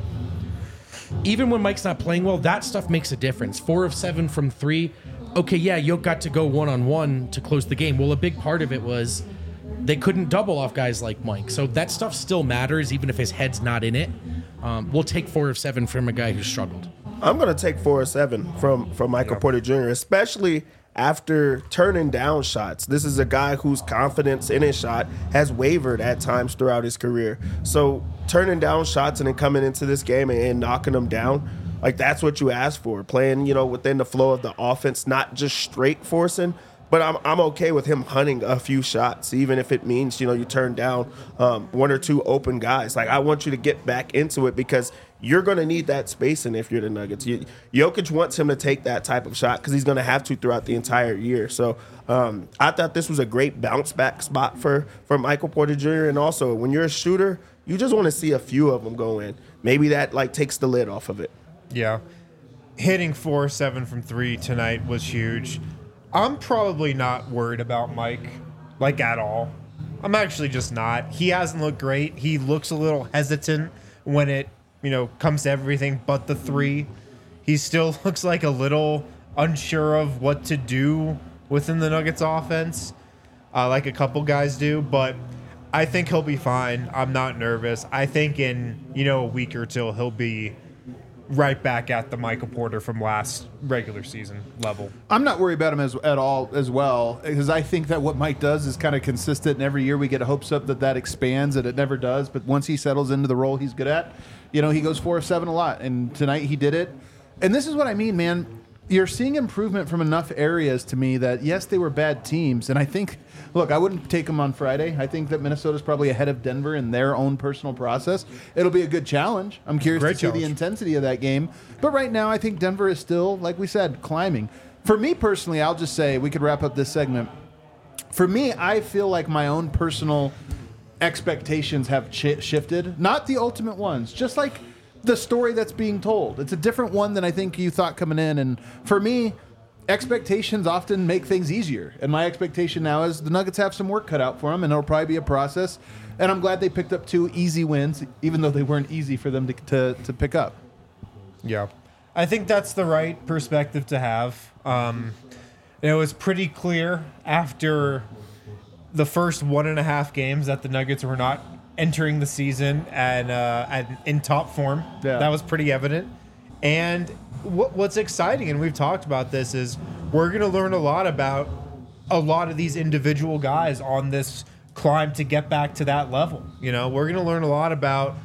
S4: even when Mike's not playing well, that stuff makes a difference. Four of seven from three. Okay, yeah, Yoke got to go one-on-one to close the game. Well, a big part of it was they couldn't double off guys like Mike. So that stuff still matters, even if his head's not in it. Um, we'll take four of seven from a guy who struggled.
S3: I'm going to take four or seven from, from Michael
S2: Yeah.
S3: Porter Junior, especially after turning down shots. This is a guy whose confidence in his shot has wavered at times throughout his career. So turning down shots and then coming into this game and, and knocking them down, like that's what you ask for. Playing, you know, within the flow of the offense, not just straight forcing. But I'm I'm okay with him hunting a few shots, even if it means, you know, you turn down um, one or two open guys. Like, I want you to get back into it because you're going to need that spacing if you're the Nuggets. You, Jokic wants him to take that type of shot because he's going to have to throughout the entire year. So um, I thought this was a great bounce back spot for, for Michael Porter Junior And also, when you're a shooter, you just want to see a few of them go in. Maybe that, like, takes the lid off of it.
S2: Yeah. Hitting four seven from three tonight was huge. I'm probably not worried about Mike, like, at all. I'm actually just not. He hasn't looked great. He looks a little hesitant when it, you know, comes to everything but the three. He still looks like a little unsure of what to do within the Nuggets offense, uh, like a couple guys do. But I think he'll be fine. I'm not nervous. I think in, you know, a week or two, he'll be right back at the Michael Porter from last regular season level.
S1: I'm not worried about him as at all as well because I think that what Mike does is kind of consistent, and every year we get hopes up that that expands, and it never does. But once he settles into the role he's good at, you know, he goes four of seven a lot, and tonight he did it. And this is what I mean, man. You're seeing improvement from enough areas to me that yes, they were bad teams, and I think, look, I wouldn't take them on Friday. I think that Minnesota's probably ahead of Denver in their own personal process. It'll be a good challenge. I'm curious
S2: Great
S1: to see
S2: challenge.
S1: the intensity of that game. But right now, I think Denver is still, like we said, climbing. For me personally, I'll just say we could wrap up this segment. For me, I feel like my own personal expectations have ch- shifted. Not the ultimate ones, just like the story that's being told. It's a different one than I think you thought coming in. And for me, expectations often make things easier. And my expectation now is the Nuggets have some work cut out for them, and it'll probably be a process. And I'm glad they picked up two easy wins, even though they weren't easy for them to, to, to pick up.
S2: Yeah. I think that's the right perspective to have. Um, and it was pretty clear after the first one and a half games that the Nuggets were not entering the season and, uh, and in top form.
S1: Yeah.
S2: That was pretty evident. And what, what's exciting, and we've talked about this, is we're going to learn a lot about a lot of these individual guys on this climb to get back to that level. You know, we're going to learn a lot about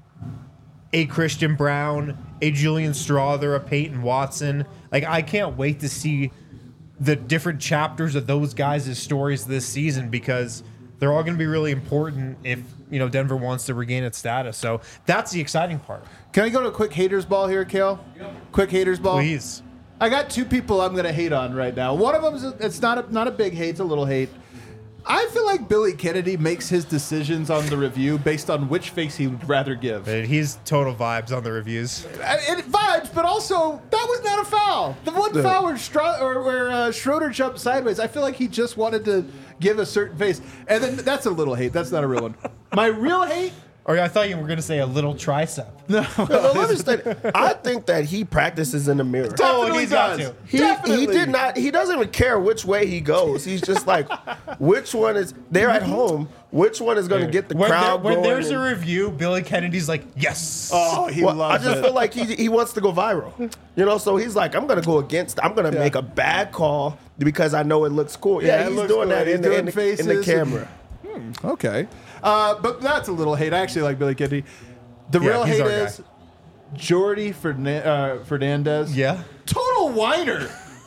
S2: a Christian Brown, a Julian Strawther, a Peyton Watson. Like, I can't wait to see the different chapters of those guys' stories this season because they're all going to be really important if, you know, Denver wants to regain its status. So that's the exciting part.
S1: Can I go to a quick haters ball here, Kale? Quick haters ball.
S2: Please.
S1: I got two people I'm going to hate on right now. One of them is it's not a, not a big hate, it's a little hate. I feel like Billy Kennedy makes his decisions on the review based on which face he would rather give.
S2: But he's total vibes on the reviews.
S1: I- It vibes, but also that was not a foul. The one
S3: No.
S1: foul where, Stra- or where uh, Schroeder jumped sideways, I feel like he just wanted to give a certain face. And then that's a little hate. That's not a real one. My real hate.
S2: Or I thought you were going to say a little tricep.
S1: No,
S3: No, let me state, I think that he practices in the mirror.
S2: Oh,
S1: definitely
S2: he's got
S1: does.
S2: to.
S3: He,
S1: Definitely.
S3: he did not. He doesn't even care which way he goes. He's just like, which one is? They're at home. Which one is going to get the
S2: when
S3: crowd
S2: there, when
S3: going?
S2: there's a
S3: and-
S2: review, Billy Kennedy's like, yes.
S1: Oh, he
S3: well, I
S1: loves
S3: just
S1: it.
S3: feel like he he wants to go viral. You know, so he's like, I'm going to go against. I'm going to
S1: Yeah.
S3: make a bad call because I know it looks cool.
S1: Yeah,
S3: Yeah,
S1: it
S3: he's
S1: looks
S3: doing
S1: cool.
S3: that
S1: He's
S3: in the,
S1: doing
S3: in, the, in
S1: faces
S3: the
S1: and-
S3: camera.
S1: Okay. Uh, but that's a little hate. I actually like Billy Kennedy. The
S2: Yeah,
S1: real
S2: he's
S1: hate
S2: our
S1: is Jordy Fernan- uh, Fernandez.
S2: Yeah.
S1: Total whiner.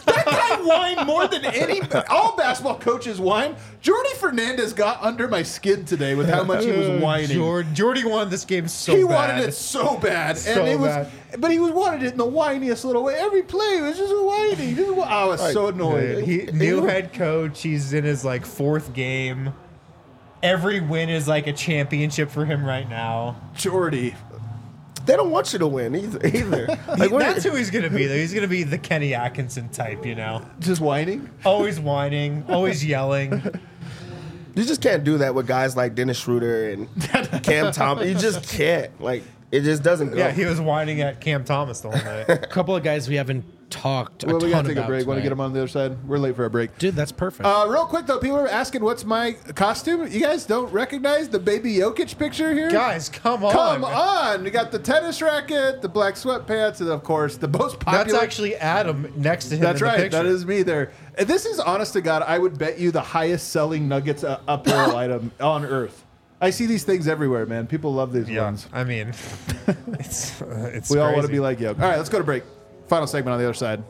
S1: That guy whined more than any. All basketball coaches whine. Jordy Fernandez got under my skin today with how much he was whining.
S2: Jord- Jordy wanted this game so
S1: he
S2: bad.
S1: wanted it so bad,
S2: So
S1: and it was,
S2: bad.
S1: but he was wanted it in the whiniest little way. Every play was just whining. Just, I was so annoyed.
S2: He, new head coach. He's in his like fourth game. Every win is like a championship for him right now.
S1: Jordy.
S3: They don't want you to win either. either. Like, what-
S2: That's who he's gonna be. Though he's gonna be the Kenny Atkinson type, you know,
S1: Just whining?
S2: always whining, always yelling.
S3: you just can't do that with guys like Dennis Schroeder and Cam Thomas. You just can't. Like, it just doesn't go.
S2: Yeah, he was whining at Cam Thomas the whole night.
S4: A couple of guys we haven't talked a
S1: Well, we
S4: ton
S1: gotta take a
S4: about
S1: break. Want to
S4: tonight.
S1: get him on the other side? We're late for a break.
S4: Dude, that's perfect.
S1: Uh, real quick though, people are asking what's my costume. You guys don't recognize the baby Jokic picture here?
S2: Guys, come on.
S1: Come on! We got the tennis racket, the black sweatpants, and of course the most popular.
S2: That's actually Adam next to him.
S1: That's
S2: in the
S1: right.
S2: picture.
S1: That is me there. And this is honest to God. I would bet you the highest selling Nuggets uh, apparel item on earth. I see these things everywhere, man. People love these
S2: Yeah,
S1: ones.
S2: I mean, it's uh, it's.
S1: We all want to
S2: crazy.
S1: be like Jokic. All right, let's go to break. Final segment on the other side.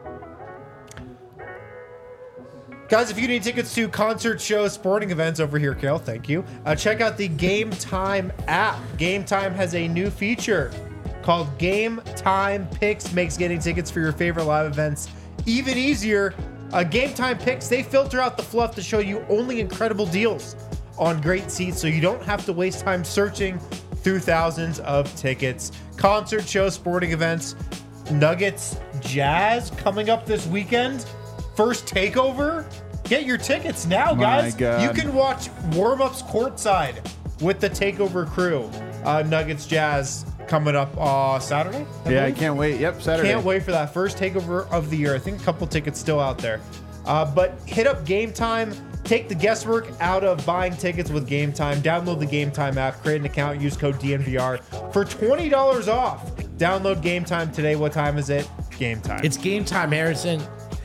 S2: Guys, if you need tickets to concert shows, sporting events over here, Kale, thank you. Uh, check out the Game Time app. Game Time has a new feature called Game Time Picks. Makes getting tickets for your favorite live events even easier. Uh, Game Time Picks, they filter out the fluff to show you only incredible deals on great seats, so you don't have to waste time searching through thousands of tickets. Concert shows, sporting events, Nuggets, Jazz coming up this weekend. First takeover. Get your tickets now,
S1: My
S2: guys.
S1: God.
S2: You can watch warm-ups courtside with the takeover crew. Uh, Nuggets Jazz coming up uh, Saturday. I
S1: Yeah, I
S2: believe.
S1: can't wait. Yep, Saturday.
S2: Can't wait for that first takeover of the year. I think a couple tickets still out there. Uh, but hit up Game Time. Take the guesswork out of buying tickets with Game Time. Download the Game Time app. Create an account. Use code D N V R for twenty dollars off. Download Game Time today. What time is it? Game Time.
S4: It's game time, Harrison.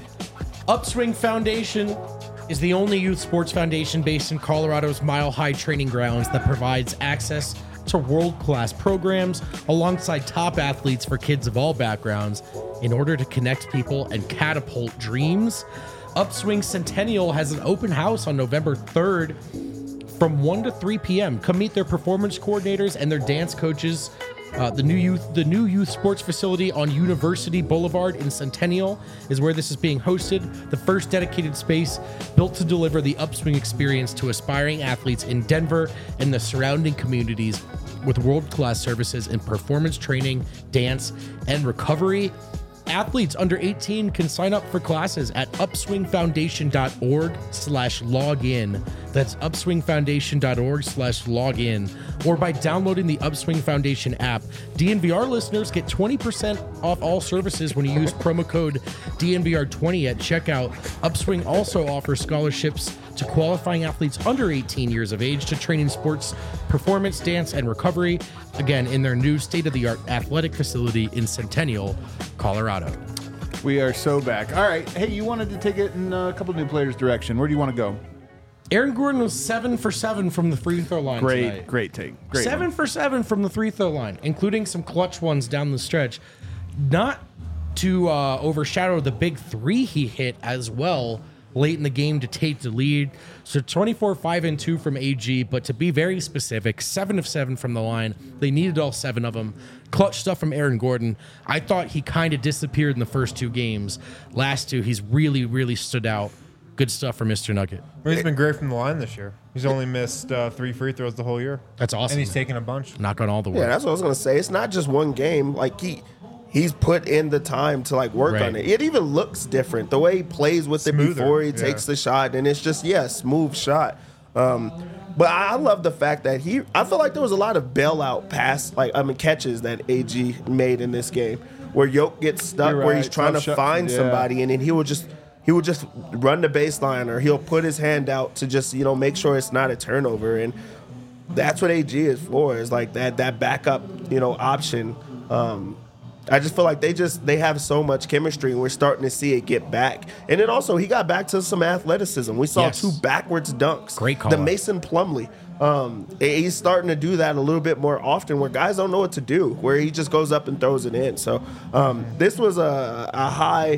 S4: Upswing Foundation is the only youth sports foundation based in Colorado's Mile High training grounds that provides access to world-class programs alongside top athletes for kids of all backgrounds in order to connect people and catapult dreams. Upswing Centennial has an open house on November third from one to three p.m. Come meet their performance coordinators and their dance coaches. Uh, the new youth, the new youth sports facility on University Boulevard in Centennial is where this is being hosted. The first dedicated space built to deliver the Upswing experience to aspiring athletes in Denver and the surrounding communities, with world-class services in performance training, dance, and recovery. Athletes under eighteen can sign up for classes at upswingfoundation.org slash login. That's upswingfoundation.org slash login. Or by downloading the Upswing Foundation app. D N V R listeners get twenty percent off all services when you use promo code D N V R twenty at checkout. Upswing also offers scholarships to qualifying athletes under eighteen years of age to train in sports, performance, dance, and recovery. Again, in their new state-of-the-art athletic facility in Centennial, Colorado.
S1: We are so back. All right. Hey, you wanted to take it in a couple new players' direction. Where do you want to go?
S4: Aaron Gordon was seven for seven from the free throw line
S1: Great,
S4: tonight.
S1: great take. Great.
S4: Seven
S1: one.
S4: for seven from the free throw line, including some clutch ones down the stretch. Not to uh, overshadow the big three he hit as well late in the game to take the lead. So twenty-four, five, and two from A G, but to be very specific, seven of seven from the line. They needed all seven of them. Clutch stuff from Aaron Gordon. I thought he kind of disappeared in the first two games. Last two, he's really, really stood out. Good stuff for Mister Nugget.
S2: Well, he's been great from the line this year. He's only missed uh, three free throws the whole year.
S4: That's awesome.
S2: And he's taken a bunch.
S4: Knock on all the
S3: Yeah,
S4: work.
S3: that's what I was gonna say. It's not just one game. Like he, he's put in the time to like work
S4: Right.
S3: on it. It even looks different the way he plays with
S2: Smoother,
S3: it before he
S2: yeah.
S3: takes the shot, and it's just yeah, smooth shot. Um, but I love the fact that he. I feel like there was a lot of bailout pass, like I mean catches that A G made in this game, where Yoke gets stuck,
S1: You're
S3: where he's
S1: right.
S3: trying
S1: Tough
S3: to
S1: shot.
S3: find
S1: Yeah.
S3: somebody, and then he will just. He would just run the baseline, or he'll put his hand out to just you know make sure it's not a turnover, and that's what A G is for. Is like that that backup you know option. Um, I just feel like they just they have so much chemistry, and we're starting to see it get back. And then also he got back to some athleticism. We saw
S4: Yes.
S3: two backwards dunks.
S4: Great call
S3: The
S4: out.
S3: Mason Plumlee. Um, he's starting to do that a little bit more often, where guys don't know what to do, where he just goes up and throws it in. So um, this was a, a high.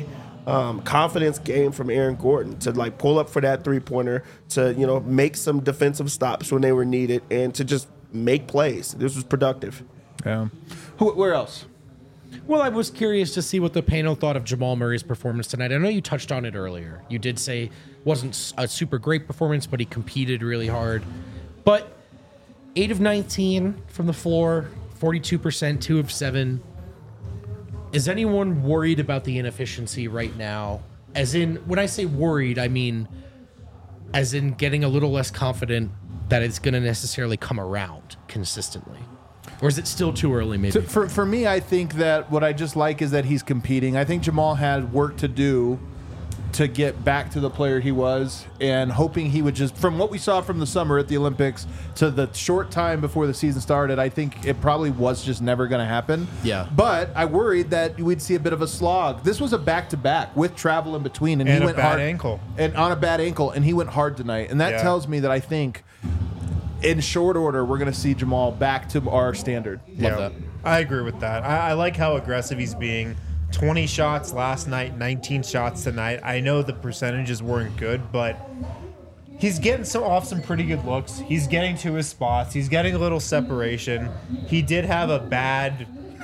S3: um, confidence game from Aaron Gordon to like pull up for that three pointer, to you know make some defensive stops when they were needed, and to just make plays. This was productive.
S1: Yeah. Who, where else?
S4: Well, I was curious to see what the panel thought of Jamal Murray's performance tonight. I know you touched on it earlier. You did say wasn't a super great performance, but he competed really hard. But eight of nineteen from the floor, forty-two percent, two of seven. Is anyone worried about the inefficiency right now? As in, when I say worried, I mean as in getting a little less confident that it's going to necessarily come around consistently. Or is it still too early, maybe?
S1: So for, for me, I think that what I just like is that he's competing. I think Jamal had work to do to get back to the player he was, and hoping he would just, from what we saw from the summer at the Olympics to the short time before the season started, I think it probably was just never going to happen.
S4: Yeah.
S1: But I worried that we'd see a bit of a slog. This was a back-to-back with travel in between, and,
S2: And
S1: he
S2: a
S1: went
S2: bad
S1: hard.
S2: ankle.
S1: And on a bad ankle, and he went hard tonight. And that
S2: Yeah.
S1: tells me that I think in short order, we're going to see Jamal back to our standard.
S4: Love that.
S2: I agree with that. I, I like how aggressive he's being. twenty shots last night, nineteen shots tonight. I know the percentages weren't good, but he's getting some off some pretty good looks. He's getting to his spots. He's getting a little separation. He did have a bad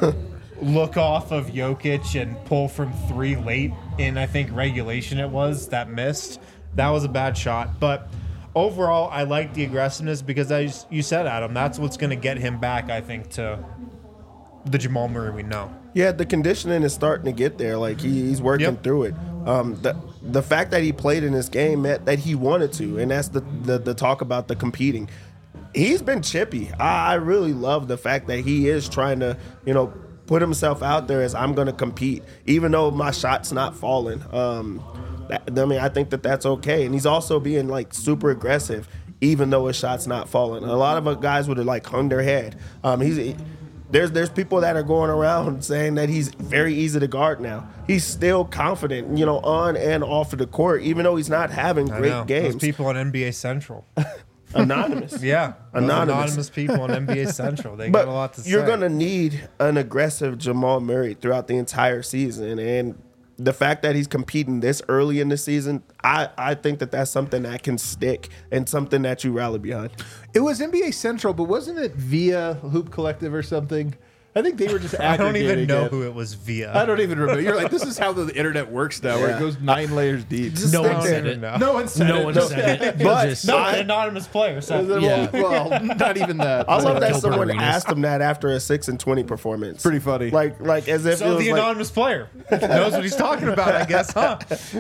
S2: look off of Jokic and pull from three late in, I think, regulation it was, that missed. That was a bad shot. But overall, I like the aggressiveness because, as you said, Adam, that's what's going to get him back, I think, to the Jamal Murray we know.
S3: Yeah, the conditioning is starting to get there. Like he, he's working
S2: Yep.
S3: through it. Um, the the fact that he played in this game meant that he wanted to, and that's the the, the talk about the competing. He's been chippy. I, I really love the fact that he is trying to, you know, put himself out there as I'm going to compete, even though my shot's not falling. Um, that, I mean, I think that that's okay, and he's also being like super aggressive, even though his shot's not falling. A lot of guys would have like hung their head. Um, he's. He, There's there's people that are going around saying that he's very easy to guard now. He's still confident, you know, on and off of the court, even though he's not having
S2: I
S3: great
S2: know.
S3: games.
S2: Those people on N B A Central.
S3: Anonymous.
S2: Yeah. Those
S3: Anonymous.
S2: anonymous people on N B A Central. They got a lot to say.
S3: You're going to need an aggressive Jamal Murray throughout the entire season. And the fact that he's competing this early in the season, I, I think that that's something that can stick and something that you rally behind.
S1: It was N B A Central, but wasn't it via Hoop Collective or something? I think they were just
S2: I don't even
S1: aggregating
S2: know
S1: it.
S2: who it was via.
S1: I don't even remember. You're like, this is how the internet works now, where
S3: Yeah.
S1: it goes nine layers deep.
S3: Just
S4: No
S3: stick
S4: one
S3: there.
S4: said it.
S2: No.
S1: No one said
S4: No
S1: it.
S4: one
S1: No.
S4: said it.
S3: But-
S4: Just-
S2: No,
S3: I-
S2: an anonymous player said
S1: Well,
S2: it.
S4: Yeah.
S1: well, not even that.
S3: I love that
S4: Gilbert
S3: someone
S4: Arenas.
S3: asked him that after a six and twenty performance.
S1: Pretty funny.
S3: Like like as if it
S2: So
S3: was
S2: the
S3: like,
S2: anonymous player knows what he's talking about, I guess, huh?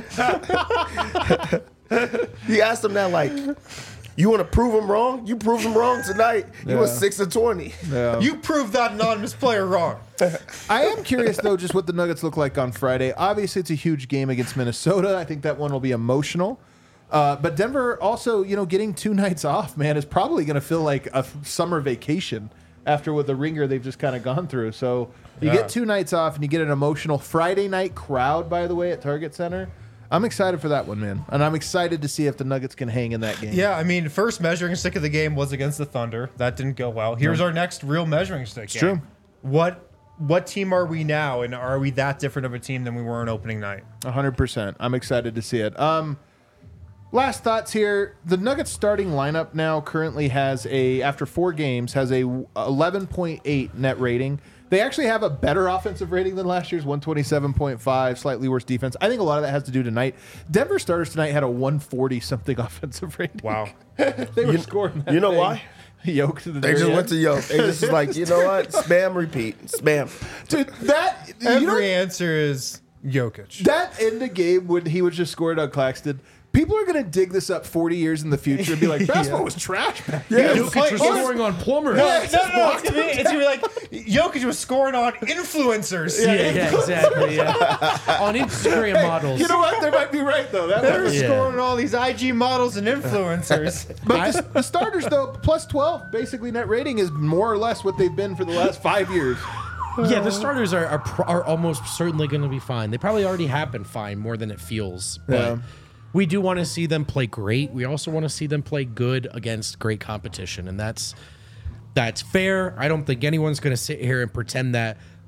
S3: he asked him that like, you want to prove him wrong? You proved him wrong tonight. He was
S1: Yeah.
S3: six and twenty.
S1: Yeah.
S2: You proved that anonymous player wrong.
S1: I am curious, though, just what the Nuggets look like on Friday. Obviously, it's a huge game against Minnesota. I think that one will be emotional. Uh, but Denver also, you know, getting two nights off, man, is probably going to feel like a f- summer vacation after with the ringer they've just kind of gone through. So you
S2: Yeah.
S1: get two nights off and you get an emotional Friday night crowd, by the way, at Target Center. I'm excited for that one, man. And I'm excited to see if the Nuggets can hang in that game.
S2: Yeah, I mean, first measuring stick of the game was against the Thunder. That didn't go well. Here's our next real measuring stick. It's
S1: true.
S2: What what team are we now, and are we that different of a team than we were on opening night?
S1: one hundred percent. I'm excited to see it. Um, last thoughts here. The Nuggets starting lineup now currently has a, after four games, has a eleven point eight net rating. They actually have a better offensive rating than last year's, one twenty-seven point five, slightly worse defense. I think a lot of that has to do tonight. Denver starters tonight had a one forty something offensive rating.
S2: Wow.
S1: They were scoring that
S3: You know
S1: thing.
S3: why?
S1: Yoke to the
S3: They
S1: very
S3: just went
S1: end.
S3: to Yoke. They just was like, you know what? Spam, repeat. Spam.
S1: Dude, that, you
S2: Every
S1: know,
S2: answer is Jokic.
S1: that end of game when he was just scored on Claxton, people are going to dig this up forty years in the future and be like, basketball was trash back then.
S4: Jokic was scoring on plumbers.
S2: No, no, no, it's gonna, be, it's gonna be like Jokic was scoring on influencers.
S4: Yeah, yeah, exactly. Yeah. On Instagram models.
S1: You know what? They might be right, though. That
S2: They're
S1: was,
S4: Yeah.
S2: scoring all these I G models and influencers.
S1: but the, the starters, though, plus twelve, basically net rating is more or less what they've been for the last five years.
S4: Yeah, the starters are are, pro- are almost certainly going to be fine. They probably already have been fine more than it feels. But
S1: Yeah.
S4: we do want to see them play great. We also want to see them play good against great competition, and that's that's fair. I don't think anyone's going to sit here and pretend that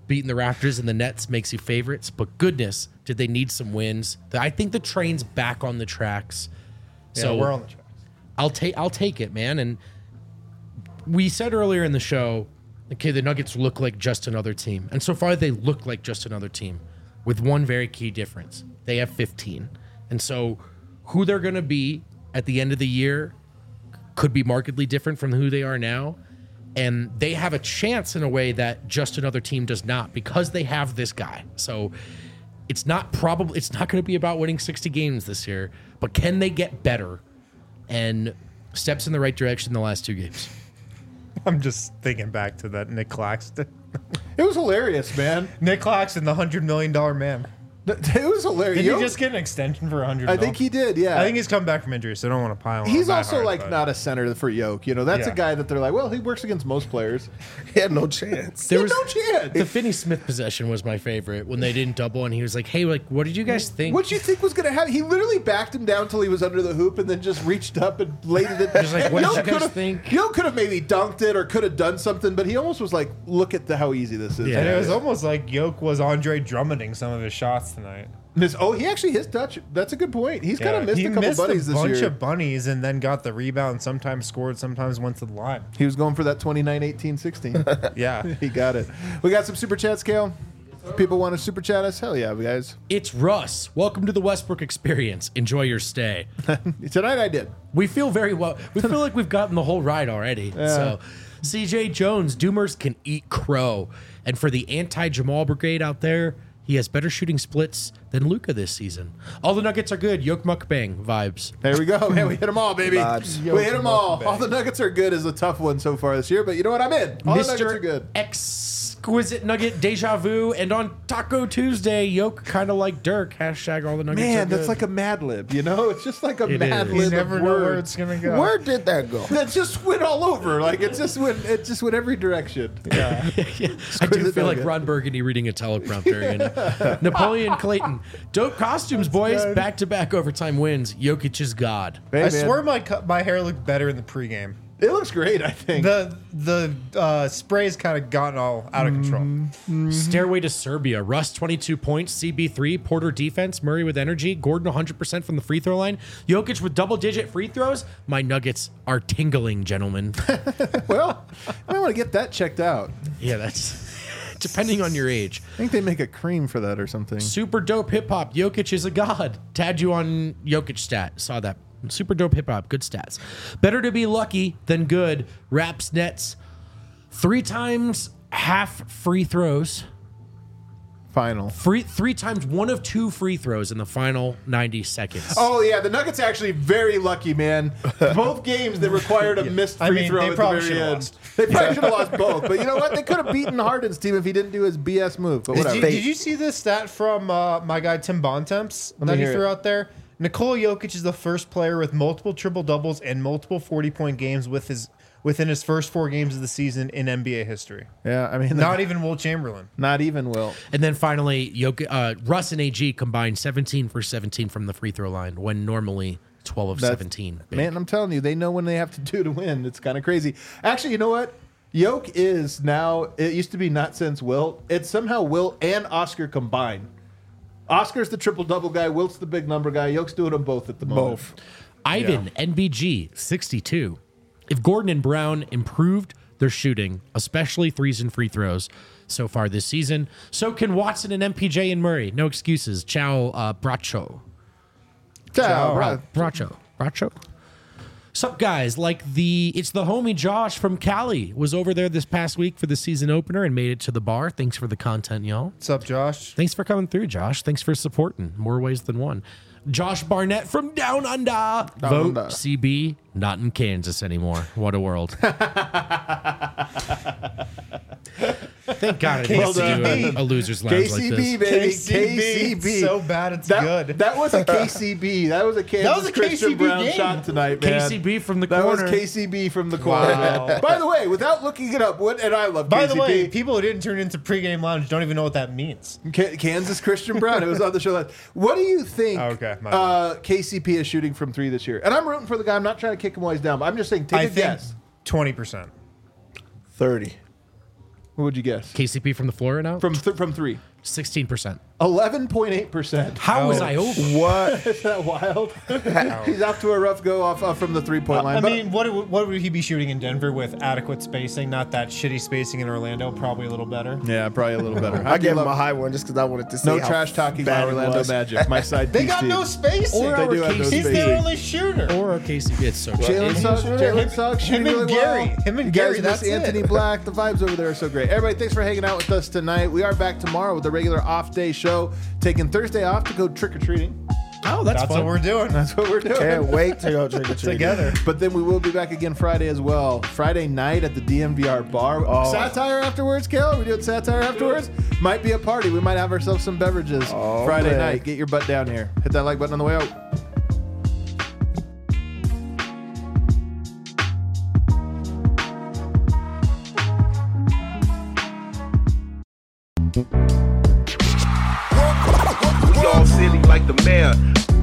S4: beating the Raptors and the Nets makes you favorites, but goodness, did they need some wins? I think the train's back on the tracks.
S2: Yeah,
S4: So
S2: we're on the tracks.
S4: I'll take I'll take it, man. And we said earlier in the show, okay, the Nuggets look like just another team. And so far they look like just another team with one very key difference. They have fifteen. And so who they're going to be at the end of the year could be markedly different from who they are now. And they have a chance in a way that just another team does not because they have this guy. So it's not probably it's not going to be about winning sixty games this year, but can they get better and steps in the right direction the last two games?
S2: I'm just thinking back to that Nick Claxton.
S1: It was hilarious, man.
S2: Nick Claxton, the hundred million dollar man.
S1: It was hilarious.
S2: Did
S1: You
S2: he
S1: know-
S2: just get an extension for a hundred?
S1: I think he did. Yeah.
S2: I think he's come back from injury, so I don't want to pile on.
S1: He's
S2: that
S1: also
S2: hard,
S1: like
S2: but-
S1: not a center for Yoke. You know, that's
S2: Yeah.
S1: a guy that they're like, well, he works against most players.
S3: He had no chance.
S4: There
S1: He
S4: was
S1: had no chance.
S4: the Finney Smith possession was my favorite when they didn't double and he was like, "Hey, like, what did you guys think?"
S1: What do you think was going to happen? He literally backed him down until he was under the hoop and then just reached up and laid it in.
S4: Just like, what did
S1: Yoke
S4: you guys
S1: could've-
S4: think?
S1: Yoke could have maybe dunked it or could have done something, but he almost was like, look at the, how easy this is.
S4: Yeah.
S2: And it was almost like Yoke was Andre Drummonding some of his shots tonight.
S1: Miss, oh, he actually his touch. That's a good point. He's kind of missed
S2: he
S1: a couple
S2: missed
S1: buddies
S2: a
S1: this
S2: bunch
S1: year.
S2: of bunnies and then got the rebound. Sometimes scored, sometimes went to the line.
S1: He was going for that twenty-nine eighteen sixteen.
S2: Yeah.
S1: He got it. We got some super chats, Kale. People want to super chat us? Hell yeah, guys.
S4: It's Russ. Welcome to the Westbrook experience. Enjoy your stay.
S1: Tonight I did.
S4: We feel very well. We feel like we've gotten the whole ride already. So, C J Jones, Doomers can eat crow. And for the anti-Jamal brigade out there, he has better shooting splits than Luka this season. All the Nuggets are good. Yoke mukbang vibes.
S1: There we go, man. We hit them all, baby.
S3: Vibes.
S1: We hit them all. All the Nuggets are good is a tough one so far this year, but you know what? I'm in. All the Nuggets are
S4: Mister
S1: good.
S4: Exquisite Nugget Deja Vu. And on Taco Tuesday, Yoke kind of like Dirk. Hashtag all the Nuggets are
S1: Man, that's
S4: good.
S1: like a Mad Lib, you know? It's just like a
S4: It
S1: Mad
S4: is.
S1: Lib.
S2: You never
S1: of
S2: know where
S1: words.
S2: it's gonna go.
S3: Where did that go?
S1: That just went all over. Like it just went. It just went every direction. Yeah.
S4: I do
S1: Exquisite
S4: feel like
S1: Nugget.
S4: Ron Burgundy reading a teleprompter. You know? Napoleon Clayton. Dope costumes, boys. Back-to-back overtime wins. Jokic is God.
S1: Hey,
S2: I
S1: man.
S2: swear my cu- my hair looked better in the pregame.
S1: it looks great. I think.
S2: The the uh, spray's kind of gotten all out of control.
S4: Stairway to Serbia. Russ, twenty-two points. C B three. Porter defense. Murray with energy. Gordon, one hundred percent from the free throw line. Jokic with double-digit free throws. My Nuggets are tingling, gentlemen.
S1: well, I might want to get that checked out.
S4: Yeah, that's depending on your age.
S1: I think they make a cream for that or something.
S4: Super dope hip hop. Jokic is a god. Tagged you on Jokic stat. Saw that. Super dope hip hop. Good stats. Better to be lucky than good. Raps Nets. Three times half free throws.
S1: Final.
S4: Free three times one of two free throws in the final ninety seconds.
S1: Oh yeah, the Nuggets actually very lucky, man. Both games they required a missed free
S2: I mean,
S1: throw
S2: they
S1: at the
S2: probably
S1: very
S2: should've
S1: end.
S2: lost.
S1: They probably should have lost both, but you know what? They could have beaten Harden's team if he didn't do his B S move. But
S2: Did
S1: whatever.
S2: you, did you see this stat from uh, my guy Tim Bontemps
S1: me
S2: that he
S1: hear
S2: threw
S1: it.
S2: out there? Nikola Jokic is the first player with multiple triple doubles and multiple forty-point games with his within his first four games of the season in N B A history.
S1: Yeah, I mean,
S2: Not even Will Chamberlain.
S1: not even Will.
S4: And then finally, Jokic, uh, Russ and A G combined seventeen for seventeen from the free throw line when normally twelve of
S1: That's-
S4: seventeen. Big.
S1: Man, I'm telling you, they know when they have to do to win. It's kind of crazy. Actually, you know what? Yoke is now. It used to be not since Wilt. It's somehow Wilt and Oscar combined. Oscar's the triple double guy. Wilt's the big number guy. Yoke's doing them both at the moment.
S3: Both.
S4: Ivan, N B G, sixty-two. If Gordon and Brown improved their shooting, especially threes and free throws so far this season, so can Watson and M P J and Murray. No excuses. Ciao, uh, Bracho.
S1: Ciao,
S4: Bra-
S1: bro.
S4: Bracho. Bracho. Sup, guys? Like the, it's the homie Josh from Cali was over there this past week for the season opener and made it to the bar. Thanks for the content, y'all.
S2: What's up, Josh?
S4: Thanks for coming through, Josh. Thanks for supporting. More ways than one. Josh Barnett from Down Under. Vote
S1: Under.
S4: C B, not in Kansas anymore. What a world. Thank God I didn't
S2: done.
S4: do a, a loser's lounge
S1: K
S4: like
S1: C B,
S4: this.
S1: baby.
S2: K C B.
S1: K C B.
S2: So bad it's
S1: that,
S2: good.
S1: That was a K C B. That was a Kansas
S2: was a
S1: Christian
S2: K C B
S1: Brown
S2: game.
S1: shot tonight, man.
S4: K C B from the
S1: That
S4: corner.
S1: was K C B from the corner.
S2: Wow.
S1: man. By the way, without looking it up, what and I love
S2: By
S1: K C B.
S2: the way, people who didn't turn into pregame lounge don't even know what that means.
S1: K- Kansas Christian Brown. It was on the show. Last. What do you think?
S2: Oh, okay, my
S1: uh, K C P is shooting from three this year, and I'm rooting for the guy. I'm not trying to kick him while he's down. But I'm just saying, take
S2: I
S1: a
S2: think
S1: guess.
S2: twenty percent.
S3: thirty.
S1: What would you guess?
S4: K C P from the floor now?
S1: From th- from three.
S4: sixteen percent.
S1: eleven point eight percent.
S4: How was I over?
S3: What?
S1: Is that wild? He's off to a rough go off, off from the three-point line.
S2: I
S1: but-
S2: mean, what would- what would he be shooting in Denver with adequate spacing? Not that shitty spacing in Orlando. Probably a little better.
S1: yeah, probably a little better.
S3: I
S1: do
S3: gave him
S1: love-
S3: a high one just because I wanted to see
S1: No
S3: how
S1: trash talking
S3: bad
S1: by
S3: it
S1: Orlando
S3: was.
S1: Magic. My side
S2: They
S1: piece
S2: got
S1: team.
S2: no spacing.
S4: Or
S1: They
S4: our
S1: do have no
S4: K C P.
S2: He's
S1: spacing.
S2: their only shooter.
S4: Or our K C P. It's so
S1: Jalen
S2: Is he
S1: Suggs,
S2: a shooter?
S1: Jalen
S2: Him-
S1: Suggs
S2: him
S1: shooting
S2: and
S1: really
S2: Gary.
S1: well.
S2: Him and
S1: You
S2: Gary,
S1: guys
S2: that's
S1: miss Anthony
S2: it.
S1: Black. The vibes over there are so great. Everybody, thanks for hanging out with us tonight. We are back tomorrow with the regular off-day show, taking Thursday off to go trick-or-treating.
S4: Oh, that's,
S2: That's
S4: fun.
S2: what we're doing.
S1: That's what we're doing.
S3: Can't wait to go trick or treating
S2: Together.
S1: But then we will be back again Friday as well. Friday night at the D M V R bar.
S3: Oh.
S1: Satire afterwards, Kel? Are we doing satire afterwards? Might be a party. We might have ourselves some beverages
S3: Oh,
S1: Friday
S3: man.
S1: night. Get your butt down here. Hit that like button on the way out.
S5: We all silly like the mayor.